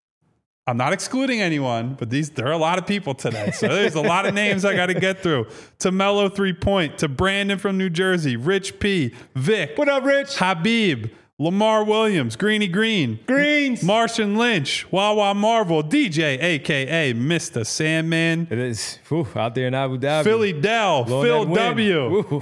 I'm not excluding anyone, but these there are a lot of people today. So there's a lot of names I got to get through. To Mello Three Point, to Brandon from New Jersey, Rich P, Vic, What up, Rich? Habib, Lamar Williams, Greeny Green, Greens. Martian Lynch, Wawa Marvel, D J, a k a. Mister Sandman, It is whew, out there in Abu Dhabi. Philly Dell, Blowing Phil that wind. W, Oof.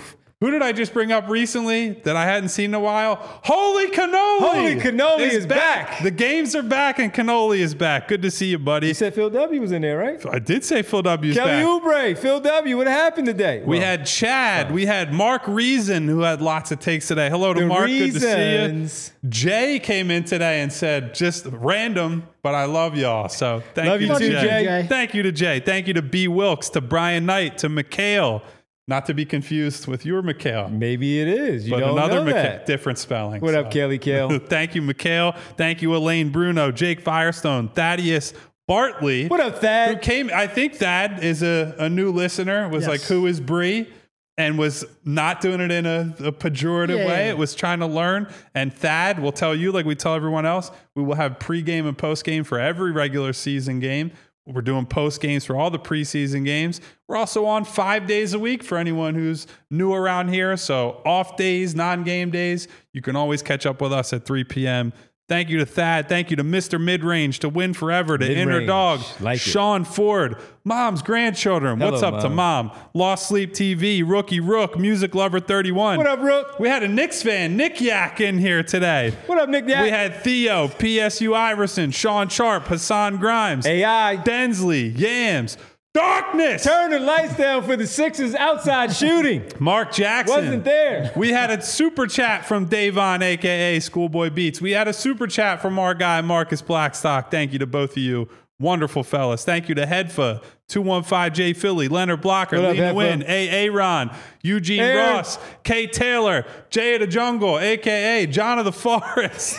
Who did I just bring up recently that I hadn't seen in a while? Holy Cannoli! Holy Cannoli is back. The games are back and Cannoli is back. Good to see you, buddy. You said Phil W was in there, right? I did say Phil W is Kelly back. Oubre, Phil W. What happened today? We Well, had Chad. We had Mark Reason, who had lots of takes today. Hello to The Mark. Good to see Reasons. you. Jay came in today and said, just random, but I love y'all. So thank Love you, you to too, Jay. Jay. Thank you to Jay. Thank you to B. Wilkes, to Brian Knight, to Mikhail. Not to be confused with your Mikhail. maybe it is. You But don't another know Mikhail, that. different spelling. What up, Kelly Kale? Thank you, Mikhail. Thank you, Elaine Bruno, Jake Firestone, Thaddeus Bartley. What up, Who Thad? came? I think Thad is a, a new listener. Was Yes. like, who is Bree? And was not doing it in a, a pejorative Yeah, way. yeah. It was trying to learn. And Thad will tell you, like we tell everyone else, we will have pregame and postgame for every regular season game. We're doing post games for all the preseason games. We're also on five days a week for anyone who's new around here. So off days, non-game days, you can always catch up with us at three p.m. Thank you to Thad. Thank you to Mister Midrange, to Win Forever, to Inner Midrange. Dog, Like it. Sean Ford, Mom's Grandchildren. Hello, What's up to Mom. Mom? Lost Sleep T V, Rookie Rook, Music Lover thirty-one. What up, Rook? We had a Knicks fan, Nick Yak, in here today. What up, Nick? We had Theo, P S U Iverson, Sean Sharp, Hassan Grimes, A I. Densley, Yams, Darkness, Turn the lights down for the Sixers outside shooting. Mark Jackson. Wasn't there. We had a super chat from Davon, a k a. Schoolboy Beats. We had a super chat from our guy, Marcus Blackstock. Thank you to both of you. Wonderful fellas. Thank you to Hedfa, two one five J Philly, Leonard Blocker, What up, Lena Hedfa? Wynn, A. Aaron, Eugene Aaron. Ross, Kate Taylor, Jay of the Jungle, a k a. John of the Forest.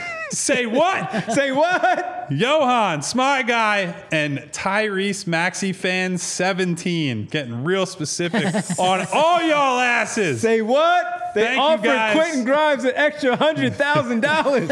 Say what? Say what? Johan, Smy Guy, and Tyrese Maxey Fan seventeen. Getting real specific on all y'all asses. Say what? They Thank you, offered guys. Quentin Grimes an extra one hundred thousand dollars.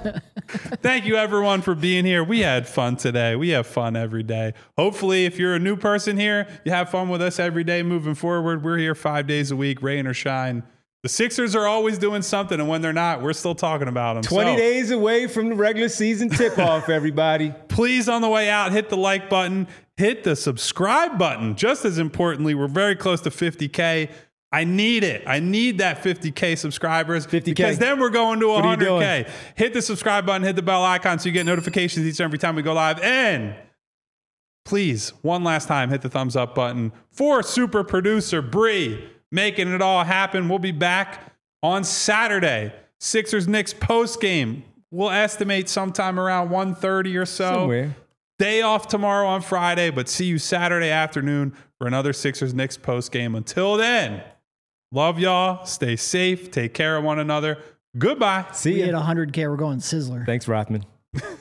Thank you, everyone, for being here. We had fun today. We have fun every day. Hopefully, if you're a new person here, you have fun with us every day moving forward. We're here five days a week, rain or shine. The Sixers are always doing something, and when they're not, we're still talking about them. twenty So, days away from the regular season tip-off, everybody. please, on the way out, hit the like button, hit the subscribe button. Just as importantly, we're very close to fifty K. I need it. I need that fifty K subscribers. fifty K. Because then we're going to are you one hundred K. doing? Hit the subscribe button, hit the bell icon so you get notifications each and every time we go live. And please, one last time, hit the thumbs up button for super producer Bree, making it all happen. We'll be back on Saturday. Sixers Knicks post game. We'll estimate sometime around one thirty or so. Somewhere. Day off tomorrow on Friday, but see you Saturday afternoon for another Sixers Knicks post game. Until then, love y'all. Stay safe. Take care of one another. Goodbye. See We hit ya. one hundred K. We're going Sizzler. Thanks, Rothman.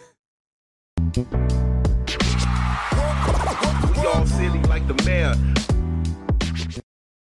We all silly like the mayor.